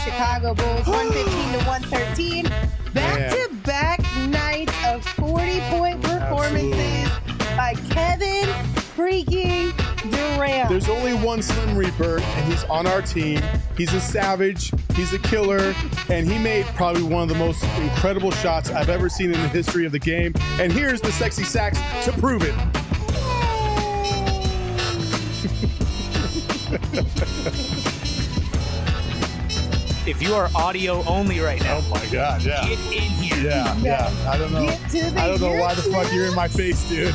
Chicago Bulls, 115 to 113. Back-to-back nights of 40-point performances by Kevin freaking Durant. There's only one Slim Reaper, and he's on our team. He's a savage. He's a killer. And he made probably one of the most incredible shots I've ever seen in the history of the game. And here's the sexy sax to prove it. If you are audio only right now, oh my God, yeah. Get in here. Yeah. I don't know. I don't know why the fuck you're in my face, dude.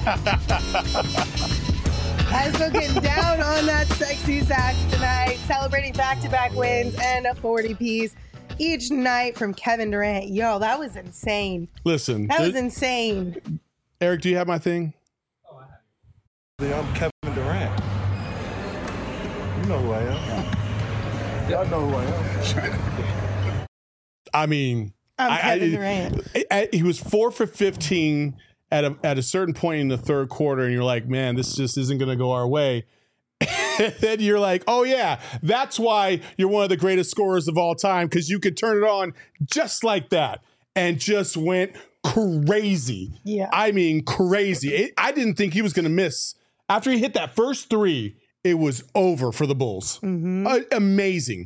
Hasbro getting down on that sexy sax tonight, celebrating back-to-back wins and a 40-piece each night from Kevin Durant. Yo, that was insane. Listen. That was insane. Eric, do you have my thing? Oh, I have it. I'm Kevin Durant. You know who I am. Y'all know who I am. I mean, I'm Kevin Durant. He was 4 for 15 at a certain point in the third quarter, and you're like, man, this just isn't going to go our way. And then you're like, oh yeah, that's why you're one of the greatest scorers of all time, because you could turn it on just like that, and just went crazy. Yeah, I mean crazy. I didn't think he was going to miss after he hit that first three. It was over for the Bulls. Mm-hmm. Amazing.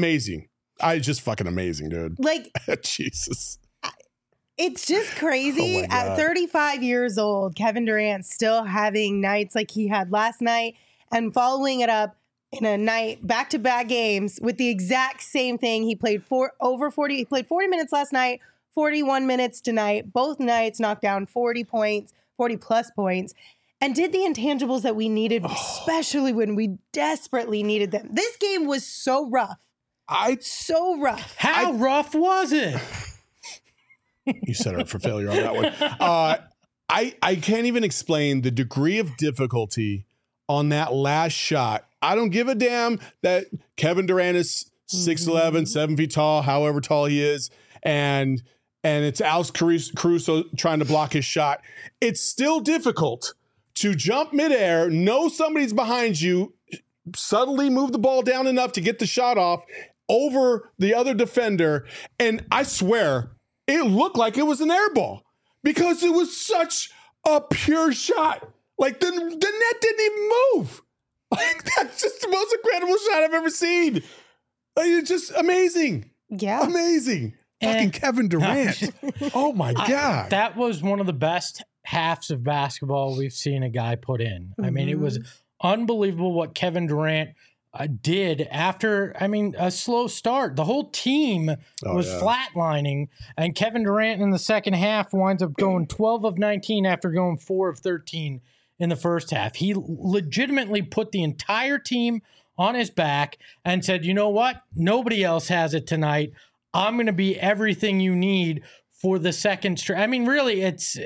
Just fucking amazing, dude. Like, Jesus. It's just crazy. Oh At 35 years old, Kevin Durant still having nights like he had last night and following it up in a night, back-to-back games with the exact same thing. He played over 40. He played 40 minutes last night, 41 minutes tonight. Both nights knocked down 40 points, 40-plus points. And did the intangibles that we needed, especially when we desperately needed them. This game was so rough. So rough. How rough was it? You set her up for failure on that one. I can't even explain the degree of difficulty on that last shot. I don't give a damn that Kevin Durant is 6'11", 7 feet tall, however tall he is, and it's Alex Caruso trying to block his shot. It's still difficult to jump midair, know somebody's behind you, subtly move the ball down enough to get the shot off over the other defender. And I swear, it looked like it was an air ball because it was such a pure shot. Like the net didn't even move. Like that's just the most incredible shot I've ever seen. Like, it's just amazing. Yeah. Amazing. Fucking Kevin Durant. Oh my God. That was one of the best halves of basketball we've seen a guy put in. I mean, it was unbelievable what Kevin Durant did after, a slow start. The whole team was flatlining, and Kevin Durant in the second half winds up going 12 of 19 after going 4 of 13 in the first half. He legitimately put the entire team on his back and said, you know what? Nobody else has it tonight. I'm going to be everything you need for the second straight. I mean, really, it's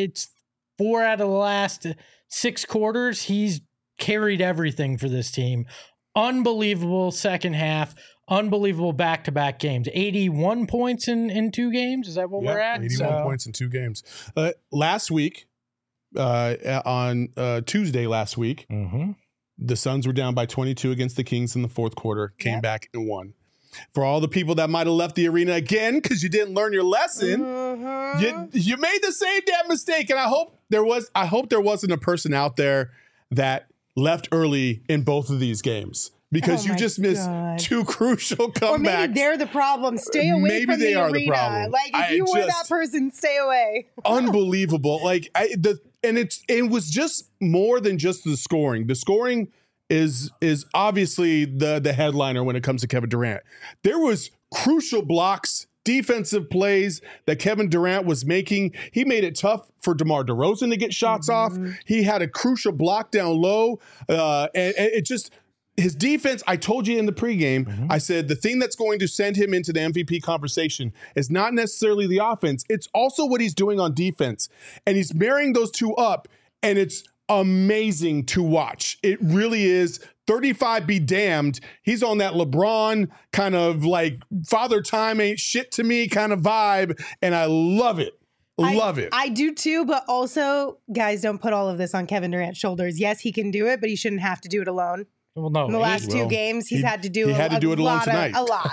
4 out of the last 6 quarters. He's carried everything for this team. Unbelievable second half. Unbelievable back-to-back games. 81 points in 2 games. Is that what we're at? 81 points in 2 games. Last week, on Tuesday last week, the Suns were down by 22 against the Kings in the fourth quarter. Came back and won. For all the people that might have left the arena again because you didn't learn your lesson, you made the same damn mistake. And I hope there wasn't a person out there that left early in both of these games because you just missed 2 crucial comebacks. Or maybe they're the problem. Stay away from the arena. The problem. Like if you were that person, stay away. Unbelievable. Like it was just more than just the scoring. The scoring is obviously the headliner when it comes to Kevin Durant. There was crucial blocks, defensive plays that Kevin Durant was making. He made it tough for DeMar DeRozan to get shots off. He had a crucial block down low. And it just, his defense, I told you in the pregame, I said the thing that's going to send him into the MVP conversation is not necessarily the offense. It's also what he's doing on defense. And he's marrying those two up, and it's amazing to watch. It really is. 35 be damned. He's on that LeBron kind of like father time ain't shit to me kind of vibe. And I love it. Love it. I do too. But also, guys, don't put all of this on Kevin Durant's shoulders. Yes, he can do it, but he shouldn't have to do it alone. Well, no, In the last two games, he's had to do he had to do it alone tonight. A lot.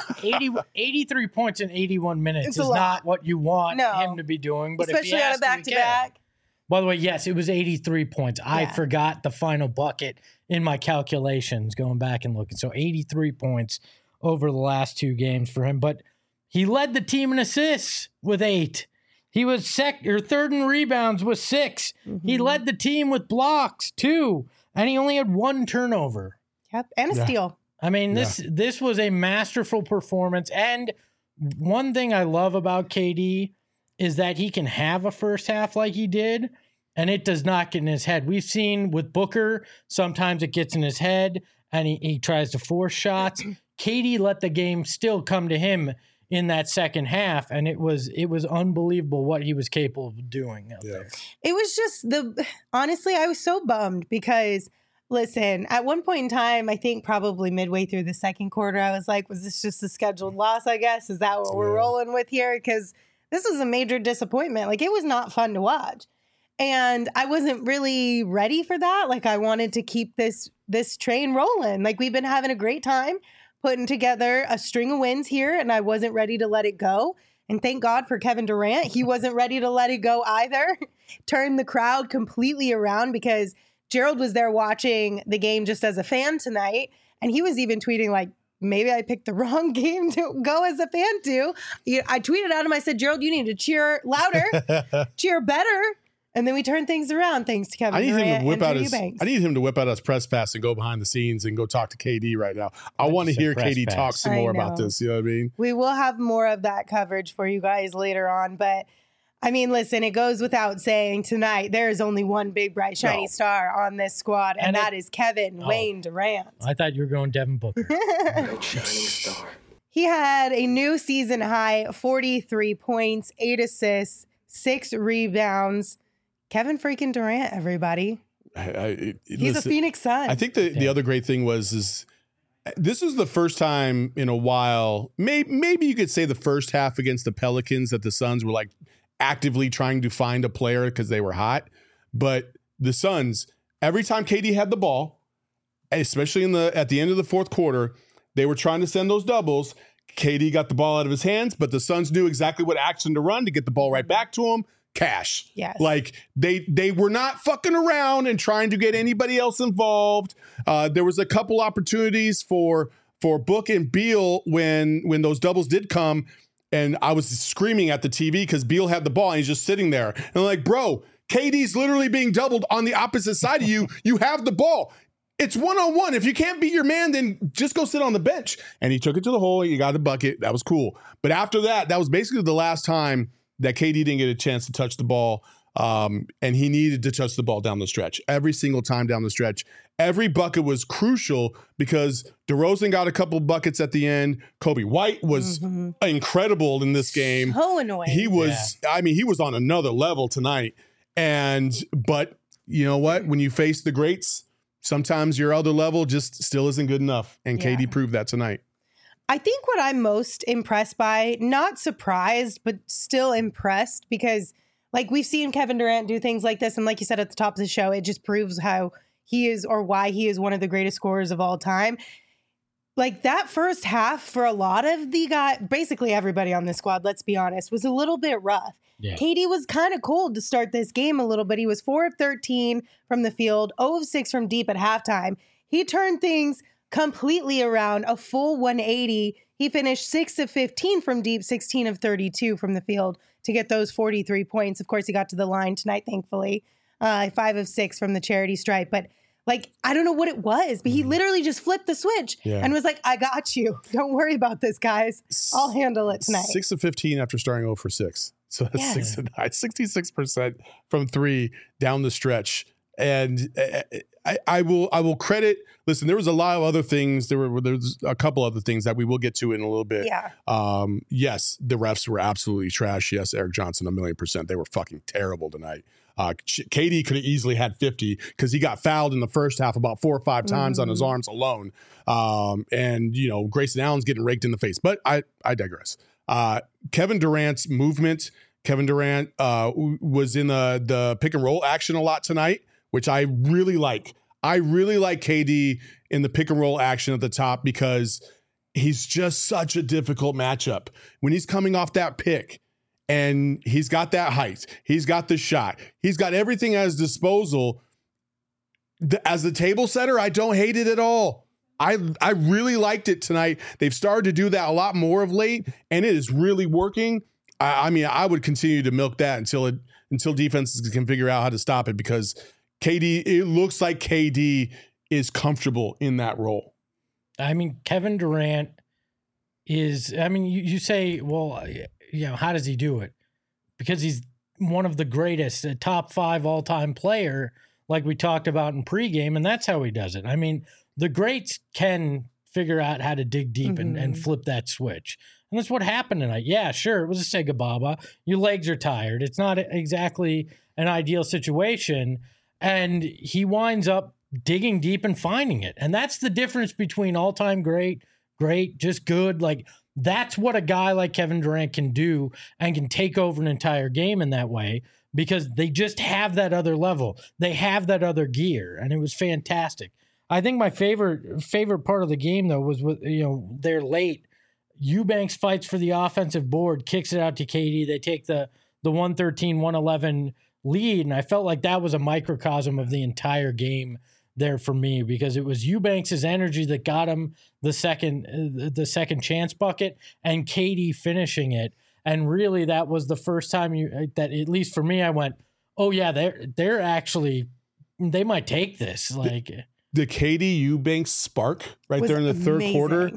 83 points in 81 minutes It's is a lot. not what you want No. him to be doing. But Especially if he on has a back-to-back. By the way, yes, it was 83 points. I Yeah. forgot the final bucket in my calculations going back and looking. So 83 points over the last two games for him. But he led the team in assists with 8. He was third in rebounds with 6. Mm-hmm. He led the team with blocks, 2. And he only had 1 turnover. Yep. And a steal. I mean, this was a masterful performance. And one thing I love about KD is that he can have a first half like he did, and it does not get in his head. We've seen with Booker, sometimes it gets in his head, and he tries to force shots. KD let the game still come to him in that second half, and it was unbelievable what he was capable of doing out there. It was just honestly, I was so bummed because, listen, at one point in time, I think probably midway through the second quarter, I was like, was this just a scheduled loss, I guess? Is that what we're rolling with here? Because this was a major disappointment. Like, it was not fun to watch. And I wasn't really ready for that. Like, I wanted to keep this train rolling. Like, we've been having a great time putting together a string of wins here, and I wasn't ready to let it go. And thank God for Kevin Durant. He wasn't ready to let it go either. Turned the crowd completely around because Gerald was there watching the game just as a fan tonight. And he was even tweeting like, maybe I picked the wrong game to go as a fan to. I tweeted at him. I said, Gerald, you need to cheer louder, cheer better. And then we turned things around thanks to Kevin Durant and Drew Eubanks. I need him to whip out his press pass and go behind the scenes and go talk to KD right now. I want to hear KD talk some more about this. You know what I mean? We will have more of that coverage for you guys later on. But I mean, listen, it goes without saying tonight, there is only one big, bright, shiny star on this squad, and that is Kevin Wayne Durant. I thought you were going Devin Booker. Bright, shining star. He had a new season high, 43 points, 8 assists, 6 rebounds. Kevin freaking Durant, everybody. He's a Phoenix Sun. I think the other great thing is this is the first time in a while, maybe you could say the first half against the Pelicans that the Suns were like actively trying to find a player because they were hot. But the Suns, every time KD had the ball, especially at the end of the fourth quarter, they were trying to send those doubles. KD got the ball out of his hands, but the Suns knew exactly what action to run to get the ball right back to him. Cash. Yes. Like they were not fucking around and trying to get anybody else involved. There was a couple opportunities for Book and Beal when those doubles did come, and I was screaming at the TV because Beal had the ball and he's just sitting there. And I'm like, bro, KD's literally being doubled on the opposite side of you. You have the ball. It's one-on-one. If you can't beat your man, then just go sit on the bench. And he took it to the hole. You got the bucket. That was cool. But after that was basically the last time that KD didn't get a chance to touch the ball, and he needed to touch the ball down the stretch. Every single time down the stretch. Every bucket was crucial because DeRozan got a couple buckets at the end. Kobe White was incredible in this game. So annoying. He was, he was on another level tonight. But you know what? When you face the greats, sometimes your other level just still isn't good enough. And KD proved that tonight. I think what I'm most impressed by, not surprised, but still impressed because like we've seen Kevin Durant do things like this. And like you said at the top of the show, it just proves how he is or why he is one of the greatest scorers of all time. Like that first half for a lot of the guys, basically everybody on this squad, let's be honest, was a little bit rough. Yeah. KD was kind of cold to start this game a little bit. He was 4 of 13 from the field, 0 of 6 from deep at halftime. He turned things completely around, a full 180. He finished 6 of 15 from deep, 16 of 32 from the field to get those 43 points. Of course, he got to the line tonight, thankfully. 5 of 6 from the charity stripe. But like, I don't know what it was, but he literally just flipped the switch and was like, I got you. Don't worry about this, guys. I'll handle it tonight. 6 of 15 after starting 0 for 6. So that's 6 of 9, 66% from 3 down the stretch. And I will credit. Listen, there was a lot of other things. There's a couple other things that we will get to in a little bit. Yeah. Yes, the refs were absolutely trash. Yes, Eric Johnson, 1,000,000%. They were fucking terrible tonight. KD could have easily had 50 because he got fouled in the first half about 4 or 5 times on his arms alone. And Grayson Allen's getting raked in the face. But I digress. Kevin Durant's movement. Kevin Durant was in the pick and roll action a lot tonight, which I really like. I really like KD in the pick and roll action at the top because he's just such a difficult matchup. When he's coming off that pick and he's got that height, he's got the shot, he's got everything at his disposal. As the table setter, I don't hate it at all. I really liked it tonight. They've started to do that a lot more of late, and it is really working. I mean, I would continue to milk that until defenses can figure out how to stop it, because it looks like KD is comfortable in that role. I mean, Kevin Durant you say, well, how does he do it? Because he's one of the greatest, a top 5 all-time player, like we talked about in pregame, and that's how he does it. I mean, the greats can figure out how to dig deep and flip that switch. And that's what happened tonight. Yeah, sure, it was a Sega Baba. Your legs are tired. It's not exactly an ideal situation. And he winds up digging deep and finding it. And that's the difference between all-time great, just good. Like, that's what a guy like Kevin Durant can do and can take over an entire game in that way, because they just have that other level. They have that other gear, and it was fantastic. I think my favorite part of the game, though, was they're late. Eubanks fights for the offensive board, kicks it out to KD. They take the 113-111 lead, and I felt like that was a microcosm of the entire game there for me, because it was Eubanks' energy that got him the second chance bucket, and KD finishing it. And really, that was the first time that, at least for me, I went, oh yeah, they're actually, they might take this. Like the KD Eubanks spark right there in the third quarter.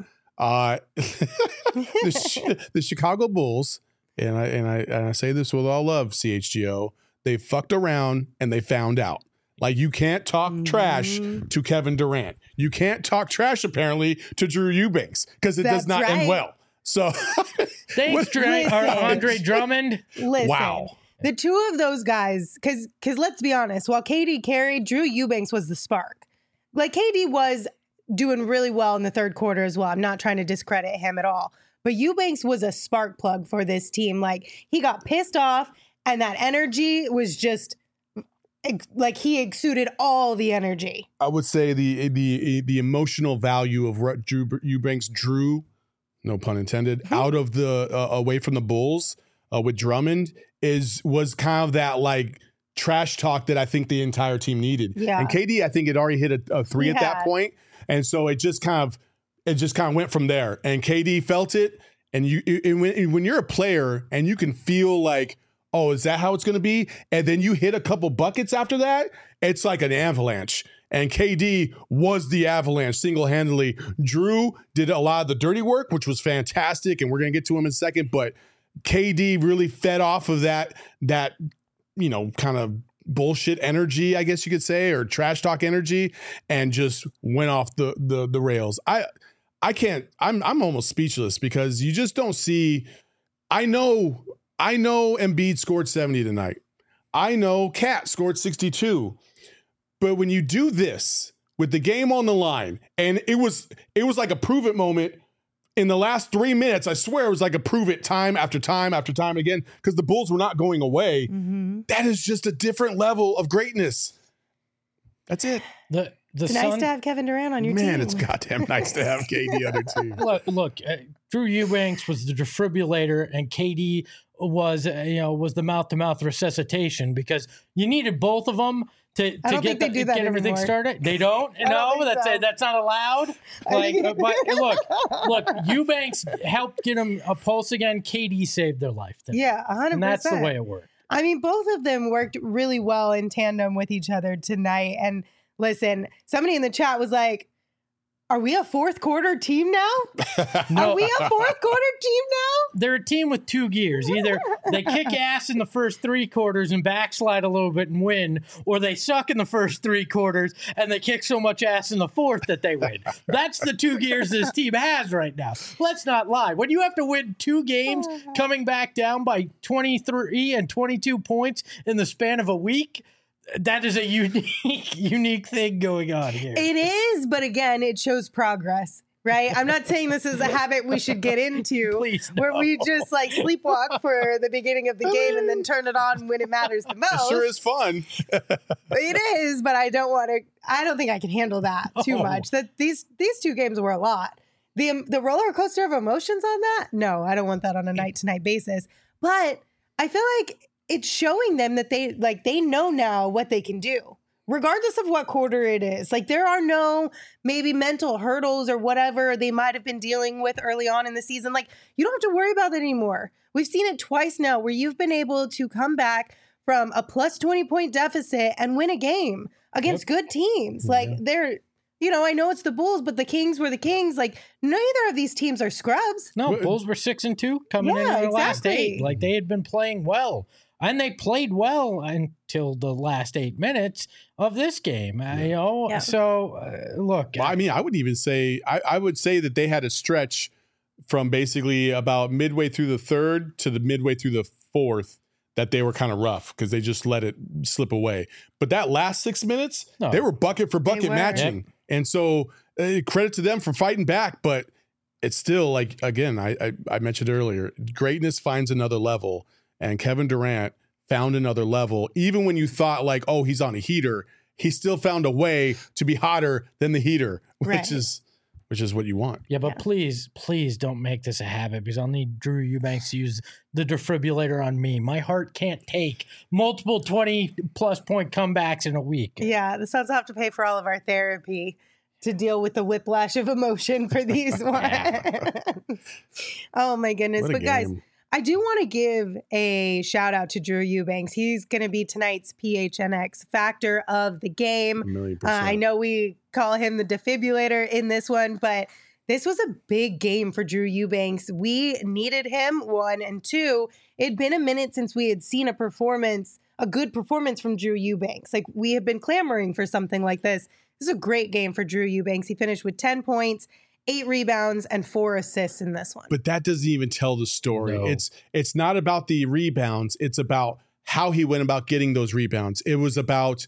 The Chicago Bulls, and I say this with all love, CHGO, they fucked around and they found out. Like, you can't talk trash to Kevin Durant. You can't talk trash, apparently, to Drew Eubanks, because it does not end well. So thanks, Andre Drummond. Listen, wow. The two of those guys, because let's be honest, while KD carried, Drew Eubanks was the spark. Like, KD was doing really well in the third quarter as well. I'm not trying to discredit him at all. But Eubanks was a spark plug for this team. Like, he got pissed off, and that energy was just, like, he exuded all the energy. I would say the emotional value of what Drew Eubanks drew, no pun intended, out of the away from the Bulls with Drummond was kind of that, like, trash talk that I think the entire team needed. Yeah. And KD, I think, had already hit a three at that point, and so it just kind of went from there. And KD felt it, and when you're a player and you can feel like, oh, is that how it's going to be? And then you hit a couple buckets after that, it's like an avalanche. And KD was the avalanche single-handedly. Drew did a lot of the dirty work, which was fantastic, and we're going to get to him in a second. But KD really fed off of that kind of bullshit energy, I guess you could say, or trash talk energy, and just went off the rails. I'm almost speechless, because you just don't see. I know Embiid scored 70 tonight. I know Cat scored 62. But when you do this with the game on the line, and it was like a prove it moment in the last 3 minutes, I swear it was like a prove it time after time after time again, because the Bulls were not going away. Mm-hmm. That is just a different level of greatness. That's it. It's nice to have Kevin Durant on your team. Man, it's goddamn nice to have KD on your team. Look, Drew Eubanks was the defibrillator, and KD was the mouth-to-mouth reception, because you needed both of them to get everything started. They don't? No, that's not allowed. Look, Eubanks helped get him a pulse again. KD saved their life. Yeah, 100%. And that's the way it worked. I mean, both of them worked really well in tandem with each other tonight. And listen, somebody in the chat was like, are we a fourth quarter team now? No. Are we a fourth quarter team now? They're a team with two gears. Either they kick ass in the first 3 quarters and backslide a little bit and win, or they suck in the first 3 quarters and they kick so much ass in the fourth that they win. That's the 2 gears this team has right now. Let's not lie. When you have to win 2 games coming back down by 23 and 22 points in the span of a week, that is a unique thing going on here. It is, but again, it shows progress. right? I'm not saying this is a habit we should get into Please, where we just like sleepwalk for the beginning of the game and then turn it on when it matters the It most. sure is fun. It is, but I don't think I can handle that too much. That these two games were a lot. The roller coaster of emotions on that? No, I don't want that on a night to night basis. But I feel like it's showing them that they know now what they can do, regardless of what quarter it is. Like there are no maybe mental hurdles or whatever they might have been dealing with early on in the season. Like you don't have to worry about that anymore. We've seen it twice now where you've been able to come back from a plus 20 point deficit and win a game against good teams. Like they're, I know it's the Bulls, but the Kings were the Kings. Like neither of these teams are scrubs. No, Bulls were 6-2 coming in the last 8. Like they had been playing well. And they played well until the last 8 minutes of this game. So look. Well, I mean, I would even say I would say that they had a stretch from basically about midway through the third to the midway through the fourth that they were kind of rough because they just let it slip away. But that last 6 minutes, they were bucket for bucket matching, and so credit to them for fighting back. But it's still like again, I mentioned earlier, greatness finds another level. And Kevin Durant found another level. Even when you thought like, oh, he's on a heater, he still found a way to be hotter than the heater, which is what you want. Yeah, but please don't make this a habit because I'll need Drew Eubanks to use the defibrillator on me. My heart can't take multiple 20-plus point comebacks in a week. Yeah, the Suns have to pay for all of our therapy to deal with the whiplash of emotion for these ones. Oh, my goodness. But guys, I do want to give a shout out to Drew Eubanks. He's going to be tonight's PHNX factor of the game. I know we call him the defibrillator in this one, but this was a big game for Drew Eubanks. We needed him, 1, and 2. It'd been a minute since we had seen a good performance from Drew Eubanks. Like we have been clamoring for something like this. This is a great game for Drew Eubanks. He finished with 10 points. 8 rebounds and 4 assists in this one. But that doesn't even tell the story. No. It's not about the rebounds. It's about how he went about getting those rebounds. It was about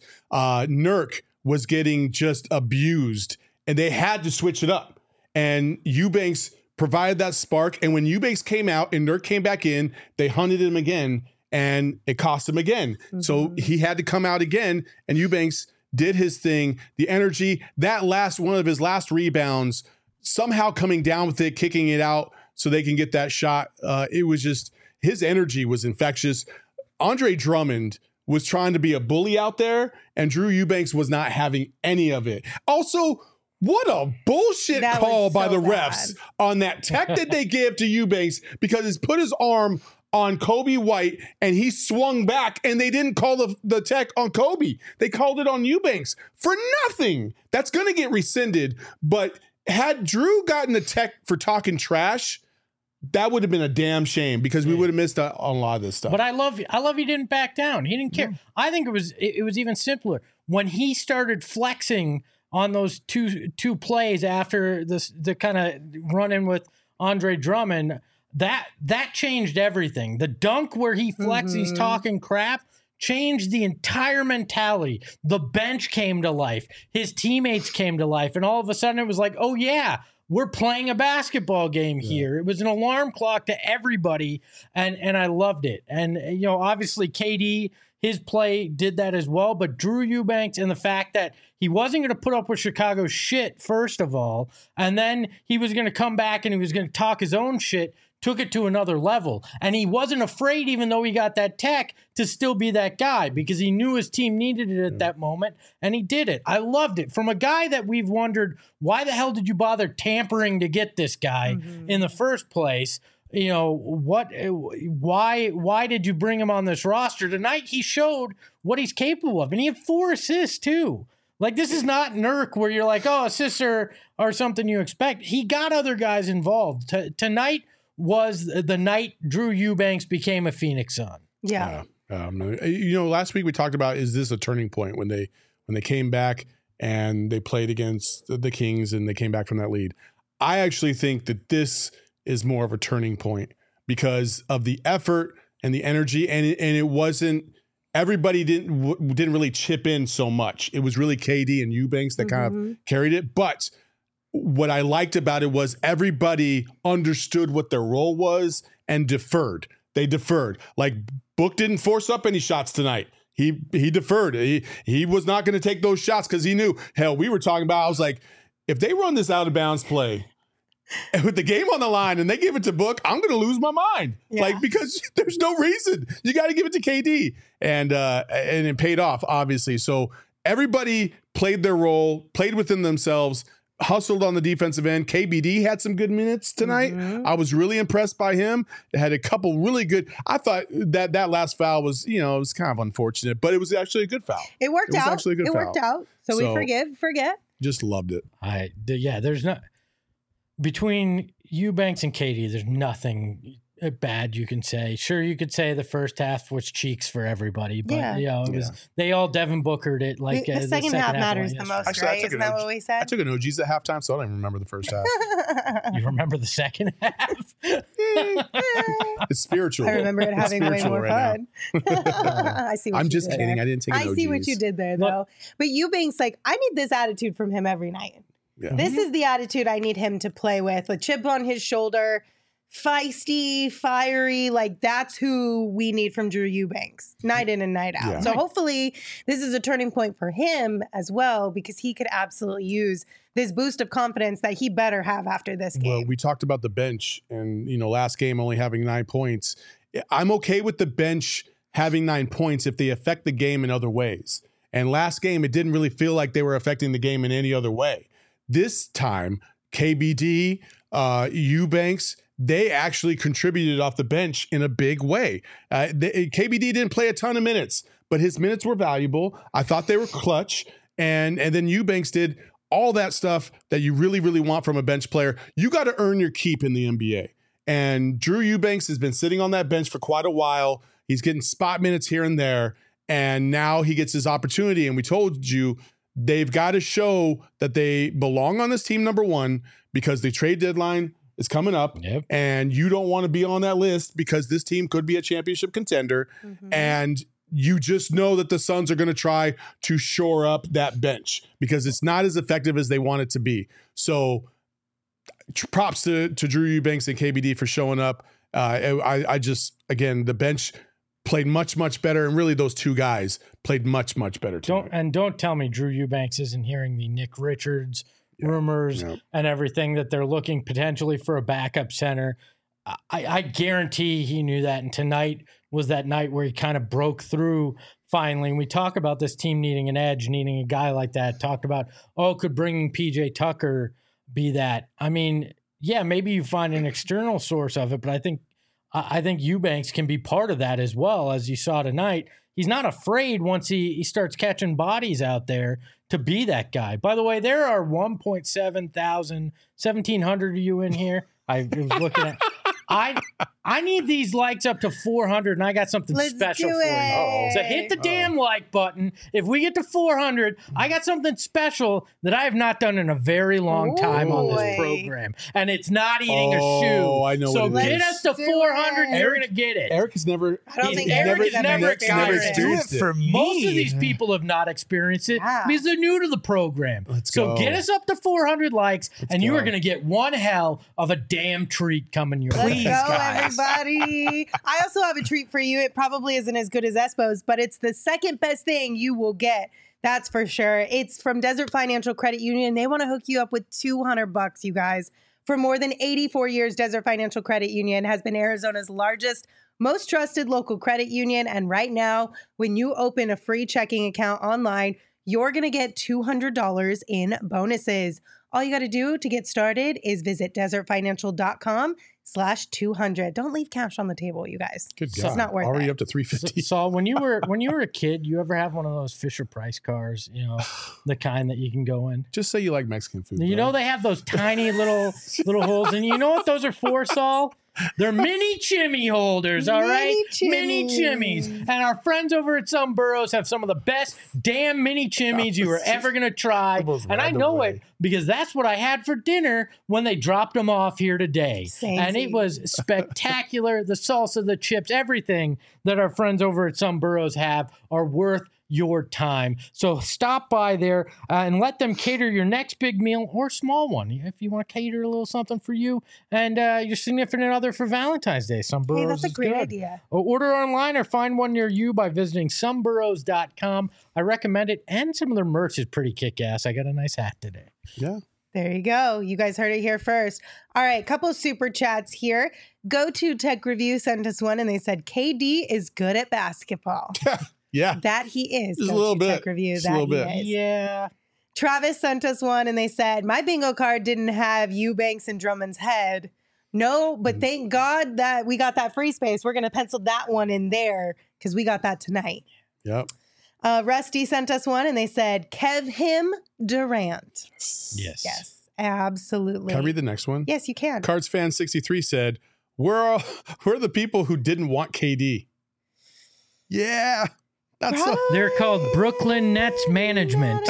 Nurk was getting just abused, and they had to switch it up. And Eubanks provided that spark. And when Eubanks came out and Nurk came back in, they hunted him again, and it cost him again. Mm-hmm. So he had to come out again, and Eubanks did his thing. The energy, one of his last rebounds, somehow coming down with it, kicking it out so they can get that shot. It was just, his energy was infectious. Andre Drummond was trying to be a bully out there, and Drew Eubanks was not having any of it. Also, what a bullshit call by the refs on that tech that they give to Eubanks because he's put his arm on Kobe White and he swung back, and they didn't call the tech on Kobe. They called it on Eubanks for nothing. That's going to get rescinded, but had Drew gotten the tech for talking trash, that would have been a damn shame because we would have missed out on a lot of this stuff. But I love he didn't back down. He didn't care. I think it was even simpler when he started flexing on those two plays after the kind of run in with Andre Drummond. That changed everything. The dunk where he flexes, he's talking crap, changed the entire mentality. The bench came to life. His teammates came to life. And all of a sudden it was like, oh yeah, we're playing a basketball game here. It was an alarm clock to everybody. And I loved it. And, obviously KD, his play did that as well. But Drew Eubanks and the fact that he wasn't going to put up with Chicago's shit, first of all, and then he was going to come back and he was going to talk his own shit, took it to another level. And he wasn't afraid, even though he got that tech, to still be that guy because he knew his team needed it at that moment, and he did it. I loved it. From a guy that we've wondered, why the hell did you bother tampering to get this guy in the first place? Why did you bring him on this roster? Tonight he showed what he's capable of, and he had 4 assists too. Like, this is not Nurk where you're like, oh, assists are something you expect. He got other guys involved. Tonight was the night Drew Eubanks became a Phoenix Sun. Yeah. Last week we talked about, is this a turning point when they came back and they played against the Kings and they came back from that lead? I actually think that this is more of a turning point because of the effort and the energy, and it wasn't, everybody didn't really chip in so much. It was really KD and Eubanks that kind of carried it, but what I liked about it was everybody understood what their role was and deferred. They deferred. Like Book didn't force up any shots tonight. He deferred. He was not going to take those shots because he knew. Hell, we were talking about. I was like, if they run this out of bounds play with the game on the line and they give it to Book, I'm going to lose my mind. Yeah. Like, because there's no reason. You got to give it to KD, and it paid off obviously. So everybody played their role, played within themselves. Hustled on the defensive end. KBD had some good minutes tonight. I was really impressed by him. It had a couple really good. I thought that last foul was, it was kind of unfortunate, but it was actually a good foul. It worked out. Actually a good it foul. worked out. So we forget. Just loved it. There's not between Eubanks and Katie. There's nothing bad you can say. Sure, you could say the first half was cheeks for everybody, but it was they all Devin Bookered it. Like the second half matters the most, Actually, right? Isn't that what we I said? took an OG's at halftime, so I don't even remember the first half. You remember the second half? It's spiritual. I remember it having way spiritual more right fun. I see. What I'm you just did kidding. there. I didn't take an I see what OG's. you did there, though. But Eubanks, I need this attitude from him every night. Yeah. This is the attitude I need him to play with chip on his shoulder, feisty, fiery. That's who we need from Drew Eubanks, night in and night out. Yeah. So hopefully this is a turning point for him as well, because he could absolutely use this boost of confidence that he better have after this game. Well, we talked about the bench and, last game only having 9 points. I'm okay with the bench having 9 points if they affect the game in other ways. And last game, it didn't really feel like they were affecting the game in any other way. This time, KBD, Eubanks, they actually contributed off the bench in a big way. KBD didn't play a ton of minutes, but his minutes were valuable. I thought they were clutch. And then Eubanks did all that stuff that you really, really want from a bench player. You got to earn your keep in the NBA. And Drew Eubanks has been sitting on that bench for quite a while. He's getting spot minutes here and there. And now he gets his opportunity. And we told you, they've got to show that they belong on this team, number one, because the trade deadline is coming up. Yep. And you don't want to be on that list because this team could be a championship contender. And you just know that the Suns are going to try to shore up that bench because it's not as effective as they want it to be. So props to Drew Eubanks and KBD for showing up. I just, again, the bench played much, much better. And really those two guys played much, much better too. Don't tell me Drew Eubanks isn't hearing the Nick Richards rumors and everything that they're looking potentially for a backup center. I guarantee he knew that. And tonight was that night where he kind of broke through finally. And we talk about this team needing an edge, needing a guy like that. Talked about, could bringing PJ Tucker be that? I mean, yeah, maybe you find an external source of it, but I think Eubanks can be part of that as well. As you saw tonight, he's not afraid once he starts catching bodies out there to be that guy. By the way, there are 1,700 of you in here. I was looking at. I need these likes up to 400, and I got something special for you. So hit the damn like button. If we get to 400, I got something special that I have not done in a very long time on this program, and it's not eating a shoe. I know. So what it get is. us to 400, and you're gonna get it. Eric has never. I don't think Eric Eric has never experienced it. For me. Most of these people have not experienced it because they're new to the program. go. Get us up to 400 likes, and you are going to get one hell of a damn treat coming your way. Let's go, everybody. I also have a treat for you. It probably isn't as good as Espo's, but it's the second best thing you will get. That's for sure. It's from Desert Financial Credit Union. They want to hook you up with $200, you guys. For more than 84 years, Desert Financial Credit Union has been Arizona's largest, most trusted local credit union. And right now, when you open a free checking account online, you're going to get $200 in bonuses. All you got to do to get started is visit desertfinancial.com/200. Don't leave cash on the table, you guys. Good It's God. not worth Already it. up to 350. So when you were a kid, you ever have one of those Fisher Price cars? You know, the kind that you can go in. Just say you like Mexican food. You bro. know they have those tiny little holes, and you know what those are for, Saul? They're mini chimney holders, all right? Mini chimneys. And our friends over at Some Burrows have some of the best damn mini chimneys you were ever going to try. And I know it because that's what I had for dinner when they dropped them off here today. And it was spectacular. The salsa, the chips, everything that our friends over at Some Burrows have are worth your time. So stop by there and let them cater your next big meal or small one. If you want to cater a little something for you and your significant other for Valentine's Day, Some Burros Hey, that's a is great good. idea. Or order online or find one near you by visiting someburros.com. I recommend it, and some of their merch is pretty kick-ass. I got a nice hat today. Yeah. There you go. You guys heard it here first. All right, couple super chats here. Go to Tech Review sent us one, and they said KD is good at basketball. Yeah. That he is. Just a Go little to bit. Tech Review. Just a That little bit. he is. Yeah. Travis sent us one, and they said my bingo card didn't have Eubanks and Drummond's head. No, but thank God that we got that free space. We're gonna pencil that one in there because we got that tonight. Yep. Rusty sent us one, and they said Kev him Durant. Yes. Yes, absolutely. Can I read the next one? Yes, you can. Cards fan 63 said, we're the people who didn't want KD. Yeah. That's They're called Brooklyn Nets Management.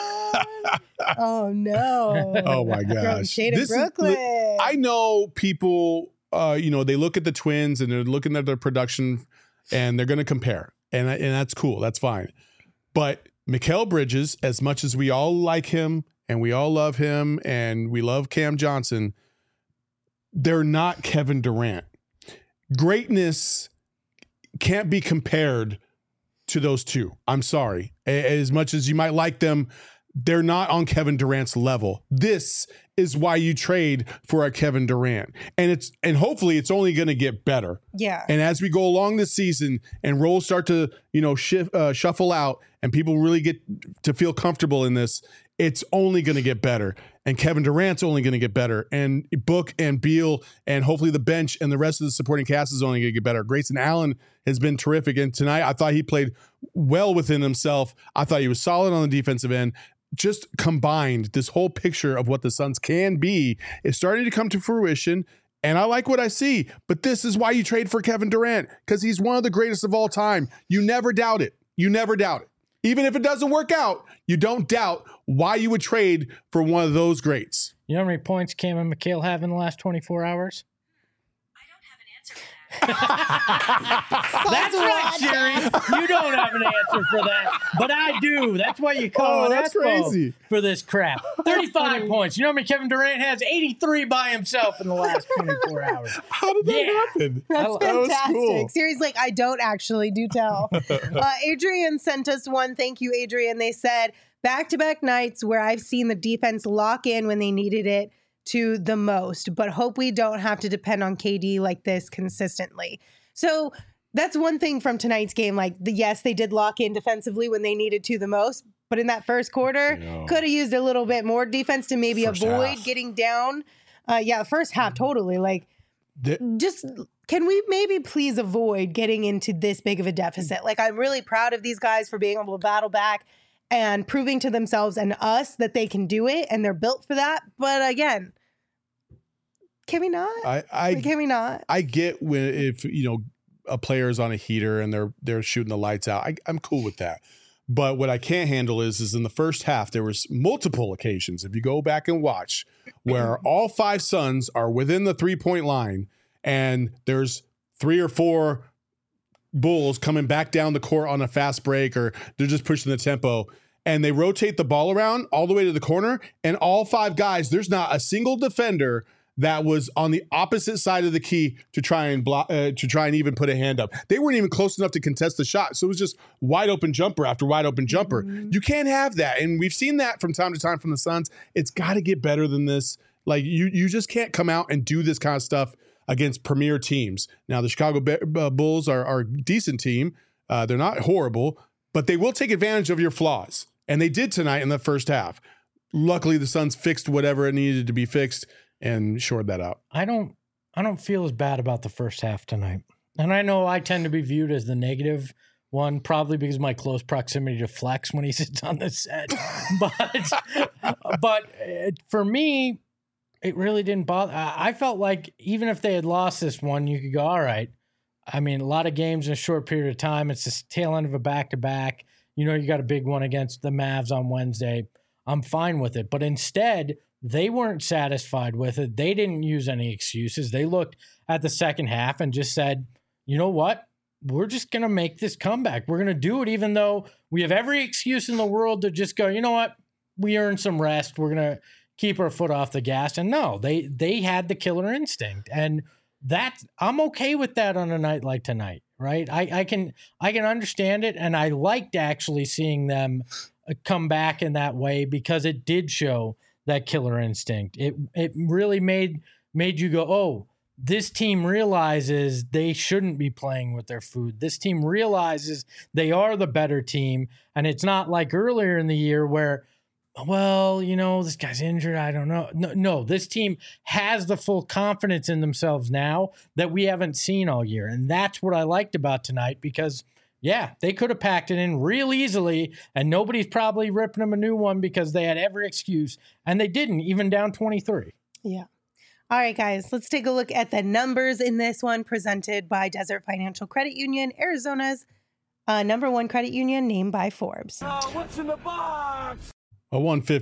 Oh no! Oh my Throwing gosh. shade at This is Brooklyn. I know people they look at the Twins and they're looking at their production and they're going to compare. And that's cool. That's fine. But Mikal Bridges, as much as we all like him and we all love him and we love Cam Johnson, they're not Kevin Durant. Greatness can't be compared to those two. I'm sorry. As much as you might like them, they're not on Kevin Durant's level. This is why you trade for a Kevin Durant. And hopefully it's only going to get better. Yeah. And as we go along this season and roles start to, shuffle out and people really get to feel comfortable in this, it's only going to get better. And Kevin Durant's only going to get better. And Book and Beal and hopefully the bench and the rest of the supporting cast is only going to get better. Grayson Allen has been terrific. And tonight I thought he played well within himself. I thought he was solid on the defensive end. Just combined, this whole picture of what the Suns can be is starting to come to fruition. And I like what I see. But this is why you trade for Kevin Durant, because he's one of the greatest of all time. You never doubt it. You never doubt it. Even if it doesn't work out, you don't doubt why you would trade for one of those greats. You know how many points Cam and Mikal have in the last 24 hours? That's right, Sherry. You don't have an answer for that, but I do. That's why you call it that's Expo crazy. for this crap. 35 points. You know how many Kevin Durant has? 83 by himself in the last 24 hours. How did that Yeah. happen? That's That was fantastic. cool. Siri's like, I don't actually do tell. Adrian sent us one. Thank you, Adrian. They said back-to-back nights where I've seen the defense lock in when they needed it to the most, but hope we don't have to depend on KD like this consistently. So that's one thing from tonight's game. Like, yes, they did lock in defensively when they needed to the most, but in that first quarter, could have used a little bit more defense to maybe First avoid half. getting down. First half, totally. Like, just can we maybe please avoid getting into this big of a deficit? Like, I'm really proud of these guys for being able to battle back and proving to themselves and us that they can do it and they're built for that. But again, can we not? Can we not? I get when if a player is on a heater and they're shooting the lights out. I'm cool with that. But what I can't handle is in the first half there was multiple occasions, if you go back and watch, where all five Suns are within the 3-point line and there's 3 or 4 Bulls coming back down the court on a fast break or they're just pushing the tempo. And they rotate the ball around all the way to the corner, and all 5 guys, there's not a single defender that was on the opposite side of the key to try and block, to try and even put a hand up. They weren't even close enough to contest the shot. So it was just wide open jumper after wide open jumper. You can't have that. And we've seen that from time to time from the Suns. It's got to get better than this. Like you just can't come out and do this kind of stuff against premier teams. Now the Chicago Bulls are a decent team. They're not horrible, but they will take advantage of your flaws. And they did tonight in the first half. Luckily the Suns fixed whatever it needed to be fixed and shored that out. I don't feel as bad about the first half tonight. And I know I tend to be viewed as the negative one, probably because of my close proximity to Flex when he sits on the set. but for me, it really didn't bother. I felt like even if they had lost this one, you could go, all right. I mean, a lot of games in a short period of time. It's the tail end of a back-to-back. You got a big one against the Mavs on Wednesday. I'm fine with it. But instead, they weren't satisfied with it. They didn't use any excuses. They looked at the second half and just said, you know what? we're just going to make this comeback. We're going to do it even though we have every excuse in the world to just go, you know what? We earned some rest. We're going to keep our foot off the gas. And no, they had the killer instinct. And I'm okay with that on a night like tonight, right? I can understand it. And I liked actually seeing them come back in that way because it did show that killer instinct. It really made you go, oh, this team realizes they shouldn't be playing with their food. This team realizes they are the better team. And it's not like earlier in the year where, well, you know, this guy's injured. I don't know. No, this team has the full confidence in themselves now that we haven't seen all year. And that's what I liked about tonight because, yeah, they could have packed it in real easily and nobody's probably ripping them a new one because they had every excuse. And they didn't, even down 23. Yeah. All right, guys, let's take a look at the numbers in this one presented by Desert Financial Credit Union, Arizona's number one credit union named by Forbes. What's in the box? A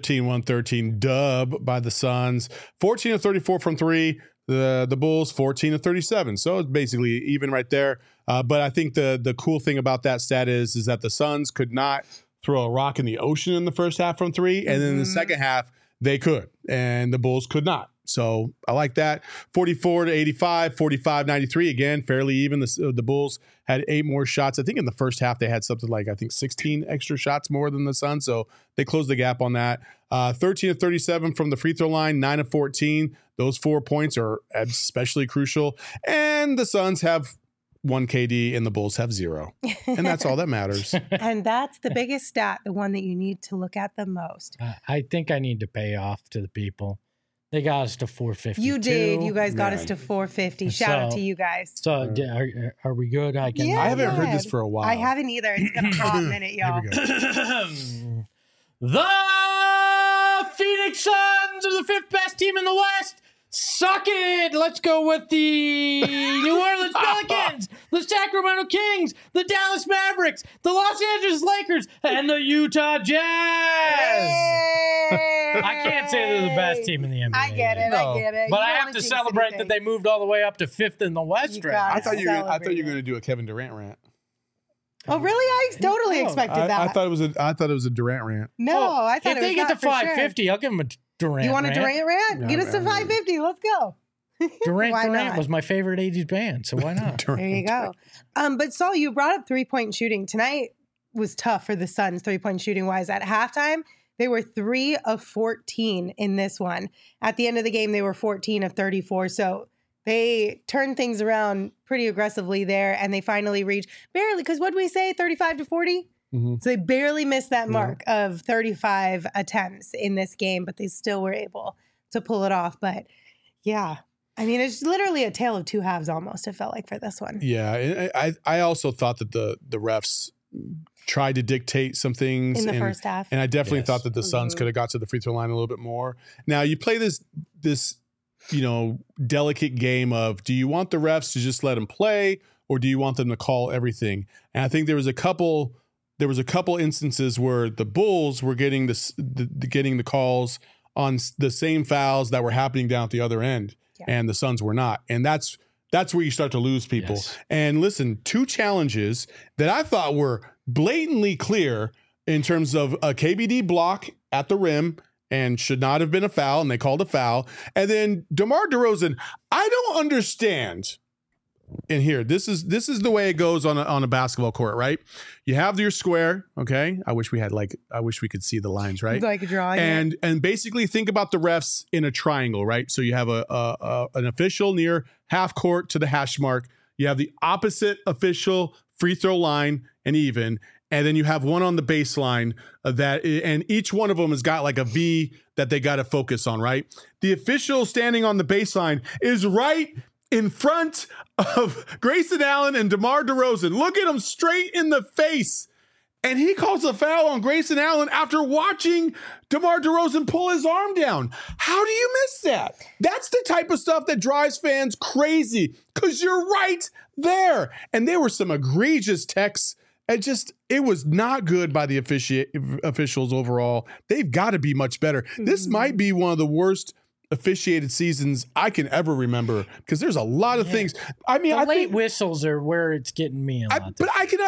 115-113 dub by the Suns. 14 of 34 from three. The Bulls 14 of 37. So it's basically even right there. But I think the cool thing about that stat is that the Suns could not throw a rock in the ocean in the first half from three. And then in the second half, they could. And the Bulls could not. So I like that. 44 to 85, 45, 93. Again, fairly even. The Bulls had 8 more shots. I think in the first half they had something like, 16 extra shots more than the Suns. So they closed the gap on that. 13 of 37 from the free throw line, 9 of 14. Those 4 points are especially crucial. And the Suns have 1 KD and the Bulls have 0. And that's all that matters. And that's the biggest stat, the one that you need to look at the most. I think I need to pay off to the people. They got us to 450. You did. You guys got us to 450. Shout out to you guys. So are we good? I haven't heard this for a while. I haven't either. It's been a hot minute, y'all. The Phoenix Suns are the 5th best team in the West. Suck it. Let's go with the New Orleans Pelicans, the Sacramento Kings, the Dallas Mavericks, the Los Angeles Lakers, and the Utah Jazz. I can't say they're the best team in the NBA. I get it. No. I get it. But I have to celebrate that they moved all the way up to 5th in the West. I thought you were going to do a Kevin Durant rant. Oh, really? I totally expected that. I thought it was a Durant rant. No, I thought if they get to 550, I'll give them a Durant. You want a Durant rant? No, Get us to 550. Let's go. Durant was my favorite 80s band, so why not? There you go. But Saul, you brought up 3-point shooting. Tonight was tough for the Suns, 3-point shooting wise. At halftime, they were 3 of 14 in this one. At the end of the game, they were 14 of 34. So they turned things around pretty aggressively there, and they finally reached barely, because what did we say, 35 to 40? Mm-hmm. So they barely missed that mark of 35 attempts in this game, but they still were able to pull it off. But yeah, I mean, it's literally a tale of two halves almost, it felt like, for this one. Yeah, I also thought that the refs tried to dictate some things in the first half. And I definitely thought that the Suns could have got to the free throw line a little bit more. Now, you play this delicate game of, do you want the refs to just let them play, or do you want them to call everything? And I think there was a couple instances where the Bulls were getting the calls on the same fouls that were happening down at the other end, and the Suns were not. And that's where you start to lose people. Yes. And listen, 2 challenges that I thought were blatantly clear in terms of a KBD block at the rim and should not have been a foul, and they called a foul. And then DeMar DeRozan, I don't understand. And here, this is the way it goes on a basketball court, right? You have your square, okay? I wish we could see the lines, right? Like a drawing. And basically think about the refs in a triangle, right? So you have an official near half court to the hash mark. You have the opposite official free throw line and even, and then you have one on the baseline and each one of them has got like a V that they got to focus on, right? The official standing on the baseline is right in front of Grayson Allen and DeMar DeRozan. Look at him straight in the face. And he calls a foul on Grayson Allen after watching DeMar DeRozan pull his arm down. How do you miss that? That's the type of stuff that drives fans crazy, because you're right there. And there were some egregious texts. It was not good by the officials overall. They've got to be much better. Mm-hmm. This might be one of the worst officiated seasons I can ever remember because there's a lot of things. I mean, The I late think, whistles are where it's getting me a lot. but I can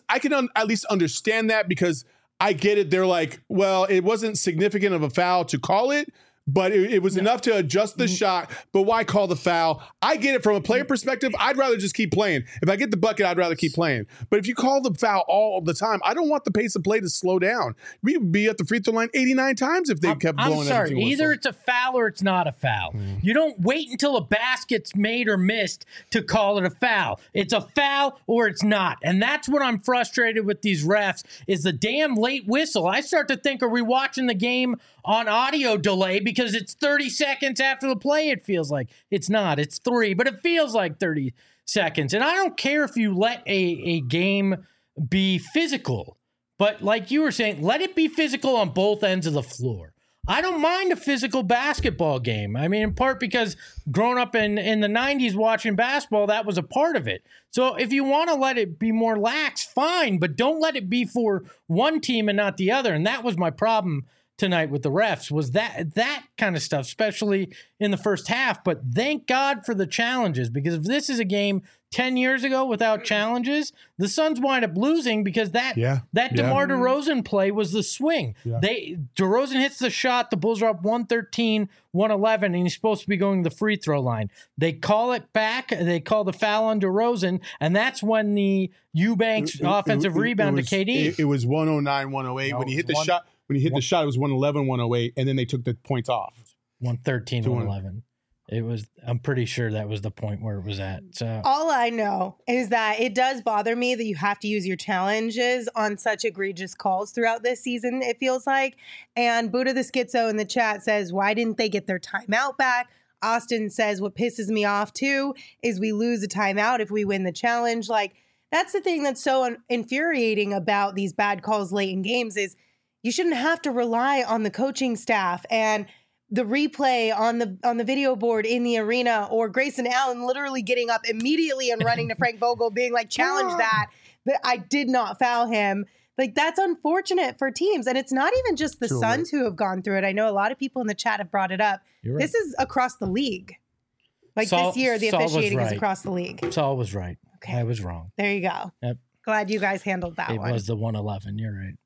at least understand that because I get it. They're like, well, it wasn't significant of a foul to call it, but it was enough to adjust the shot. But why call the foul? I get it from a player perspective. I'd rather just keep playing. If I get the bucket, I'd rather keep playing. But if you call the foul all the time, I don't want the pace of play to slow down. We'd be at the free throw line 89 times if they kept blowing. I'm sorry. Either it's a foul or it's not a foul. You don't wait until a basket's made or missed to call it a foul. It's a foul or it's not. And that's what I'm frustrated with these refs is the damn late whistle. I start to think, are we watching the game on audio delay because it's 30 seconds after the play? It feels like it's not. It's 3, but it feels like 30 seconds. And I don't care if you let a game be physical, but like you were saying, let it be physical on both ends of the floor. I don't mind a physical basketball game. I mean, in part because growing up in the 90s watching basketball, that was a part of it. So if you want to let it be more lax, fine, but don't let it be for one team and not the other. And that was my problem tonight with the refs, was that kind of stuff, especially in the first half. But thank God for the challenges, because if this is a game 10 years ago without challenges, the Suns wind up losing because that DeMar DeRozan play was the swing. Yeah. DeRozan hits the shot, the Bulls are up 113, 111, and he's supposed to be going to the free throw line. They call it back, they call the foul on DeRozan, and that's when the Eubanks offensive rebound to KD. It was 109, 108. When he hit the shot, the shot, it was 111, 108, and then they took the points off. 113, 111. It was. I'm pretty sure that was the point where it was at. So all I know is that it does bother me that you have to use your challenges on such egregious calls throughout this season, it feels like. And Buddha the Schizo in the chat says, why didn't they get their timeout back? Austin says, what pisses me off too is we lose a timeout if we win the challenge. Like, that's the thing that's so infuriating about these bad calls late in games is you shouldn't have to rely on the coaching staff and the replay on the video board in the arena, or Grayson Allen literally getting up immediately and running to Frank Vogel being like, challenge that I did not foul him. Like, that's unfortunate for teams. And it's not even just the Suns who have gone through it. I know a lot of people in the chat have brought it up. Right. This is across the league. Like this year, the officiating is across the league. Saul was right. Okay. I was wrong. There you go. Yep. Glad you guys handled that It one. was the 111. You're right.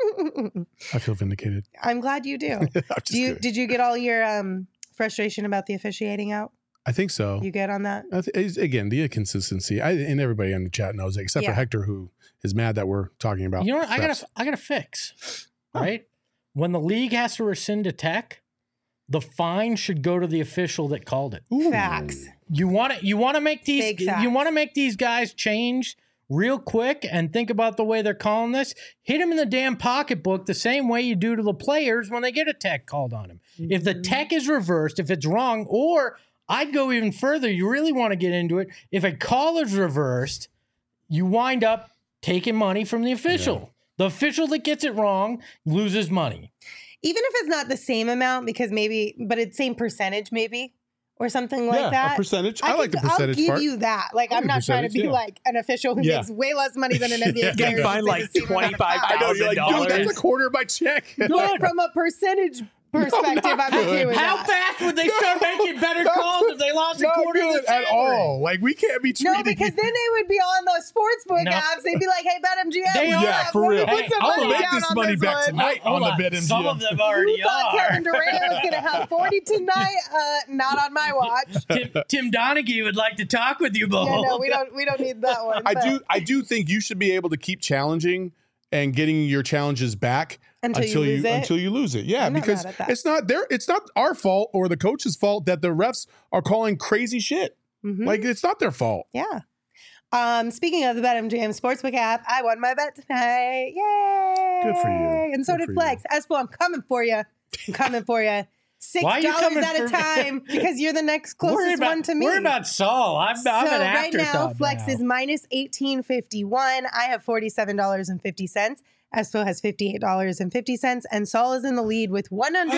I feel vindicated. I'm glad you do. Did you get all your frustration about the officiating out? I think so. You good on that? Again, the inconsistency. And everybody in the chat knows it, except for Hector, who is mad that we're talking about. You know what? I got to fix. Right? When the league has to rescind a tech, the fine should go to the official that called it. Ooh. Facts. You want to make these guys change real quick and think about the way they're calling this. Hit them in the damn pocketbook the same way you do to the players when they get a tech called on them. Mm-hmm. If the tech is reversed, if it's wrong, or I'd go even further, you really want to get into it. If a call is reversed, you wind up taking money from the official. Yeah. The official that gets it wrong loses money. Even if it's not the same amount, because but it's same percentage maybe. Or something like that. A percentage. I like the percentage I'll give part. you that. Like, I'm not trying to be like an official who makes way less money than an NBA player. You find like $25,000. That's a quarter of my check. But from a percentage perspective, I'm okay with How that. fast would they start making better calls if they lost a quarter of the at all? Like, we can't be treated. No, because then they would be on the sportsbook apps. They'd be like, "Hey, BetMGM, for real. Hey, I'll make this money back tonight on the BetMGM." Some of them already Who thought Kevin Durant was going to have 40 tonight? Not on my watch. Tim Donaghy would like to talk with you both. Yeah, no, we don't need that one. I do think you should be able to keep challenging and getting your challenges back until you lose it. Yeah, because it's not our fault or the coach's fault that the refs are calling crazy shit. Mm-hmm. Like, it's not their fault. Yeah. Speaking of the BetMGM Sportsbook app, I won my bet tonight. Yay! Good for you. And so did Flex. Espo, I'm coming for you. $6 at a time because you're the next closest one to me. We're about Saul. I'm an afterthought right now, Flex is minus $18.51. I have $47.50. Espo has $58.50, and Saul is in the lead with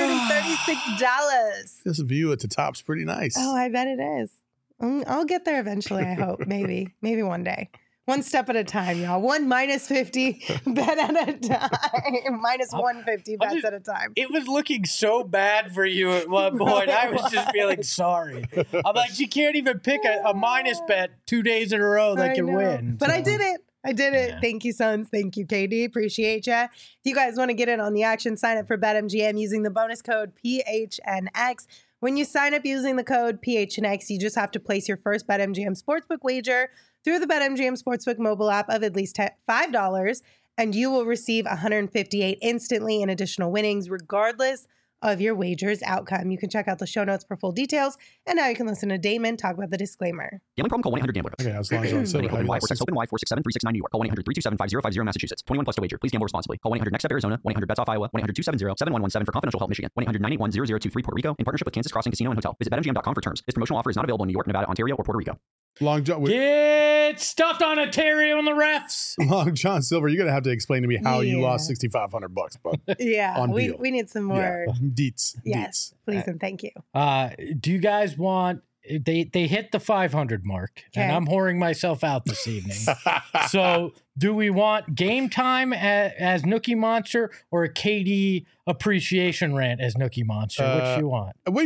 $136. This view at the top's pretty nice. Oh, I bet it is. I'll get there eventually, I hope. Maybe one day. One step at a time, y'all. One minus 50 bet at a time. Minus 150 bets at a time. It was looking so bad for you at one point. I was just feeling sorry. I'm like, you can't even pick a minus bet 2 days in a row that I can know. win. But I did it. I did it. Yeah. Thank you, Sons. Thank you, KD. Appreciate ya. If you guys want to get in on the action, sign up for BetMGM using the bonus code PHNX. When you sign up using the code PHNX, you just have to place your first BetMGM Sportsbook wager through the BetMGM Sportsbook mobile app of at least $5, and you will receive $158 instantly in additional winnings, regardless of your wager's outcome. You can check out the show notes for full details, and now you can listen to Damon talk about the disclaimer. Gambling problem? Call 1-800-GAMBLER. Okay, as long as I'm saying Open Y or text Open Y 467-369 New York. Call 1-800-327-5050 Massachusetts. 21 plus to wager. Please gamble responsibly. Call 1-800-NEXT-STEP Arizona. 1-800-BETS-OFF Iowa. 1-800-270-7117 for confidential help Michigan. 1-800-981-0023 Puerto Rico in partnership with Kansas Crossing Casino and Hotel. Visit BetMGM.com for terms. This promotional offer is not available in New York, Nevada, Ontario, or Puerto Rico. Long John, Get stuffed on Ontario and the refs. Long John Silver, you're gonna have to explain to me how you Yeah. lost $6,500, bud. Yeah, On we deal. need some more. Yeah. Deets. Yes, please and thank you. Do you guys want? They hit the 500 mark, and Okay. I'm whoring myself out this evening. So, do we want game time as Nookie Monster or a KD appreciation rant as Nookie Monster? Which do you want? Wait,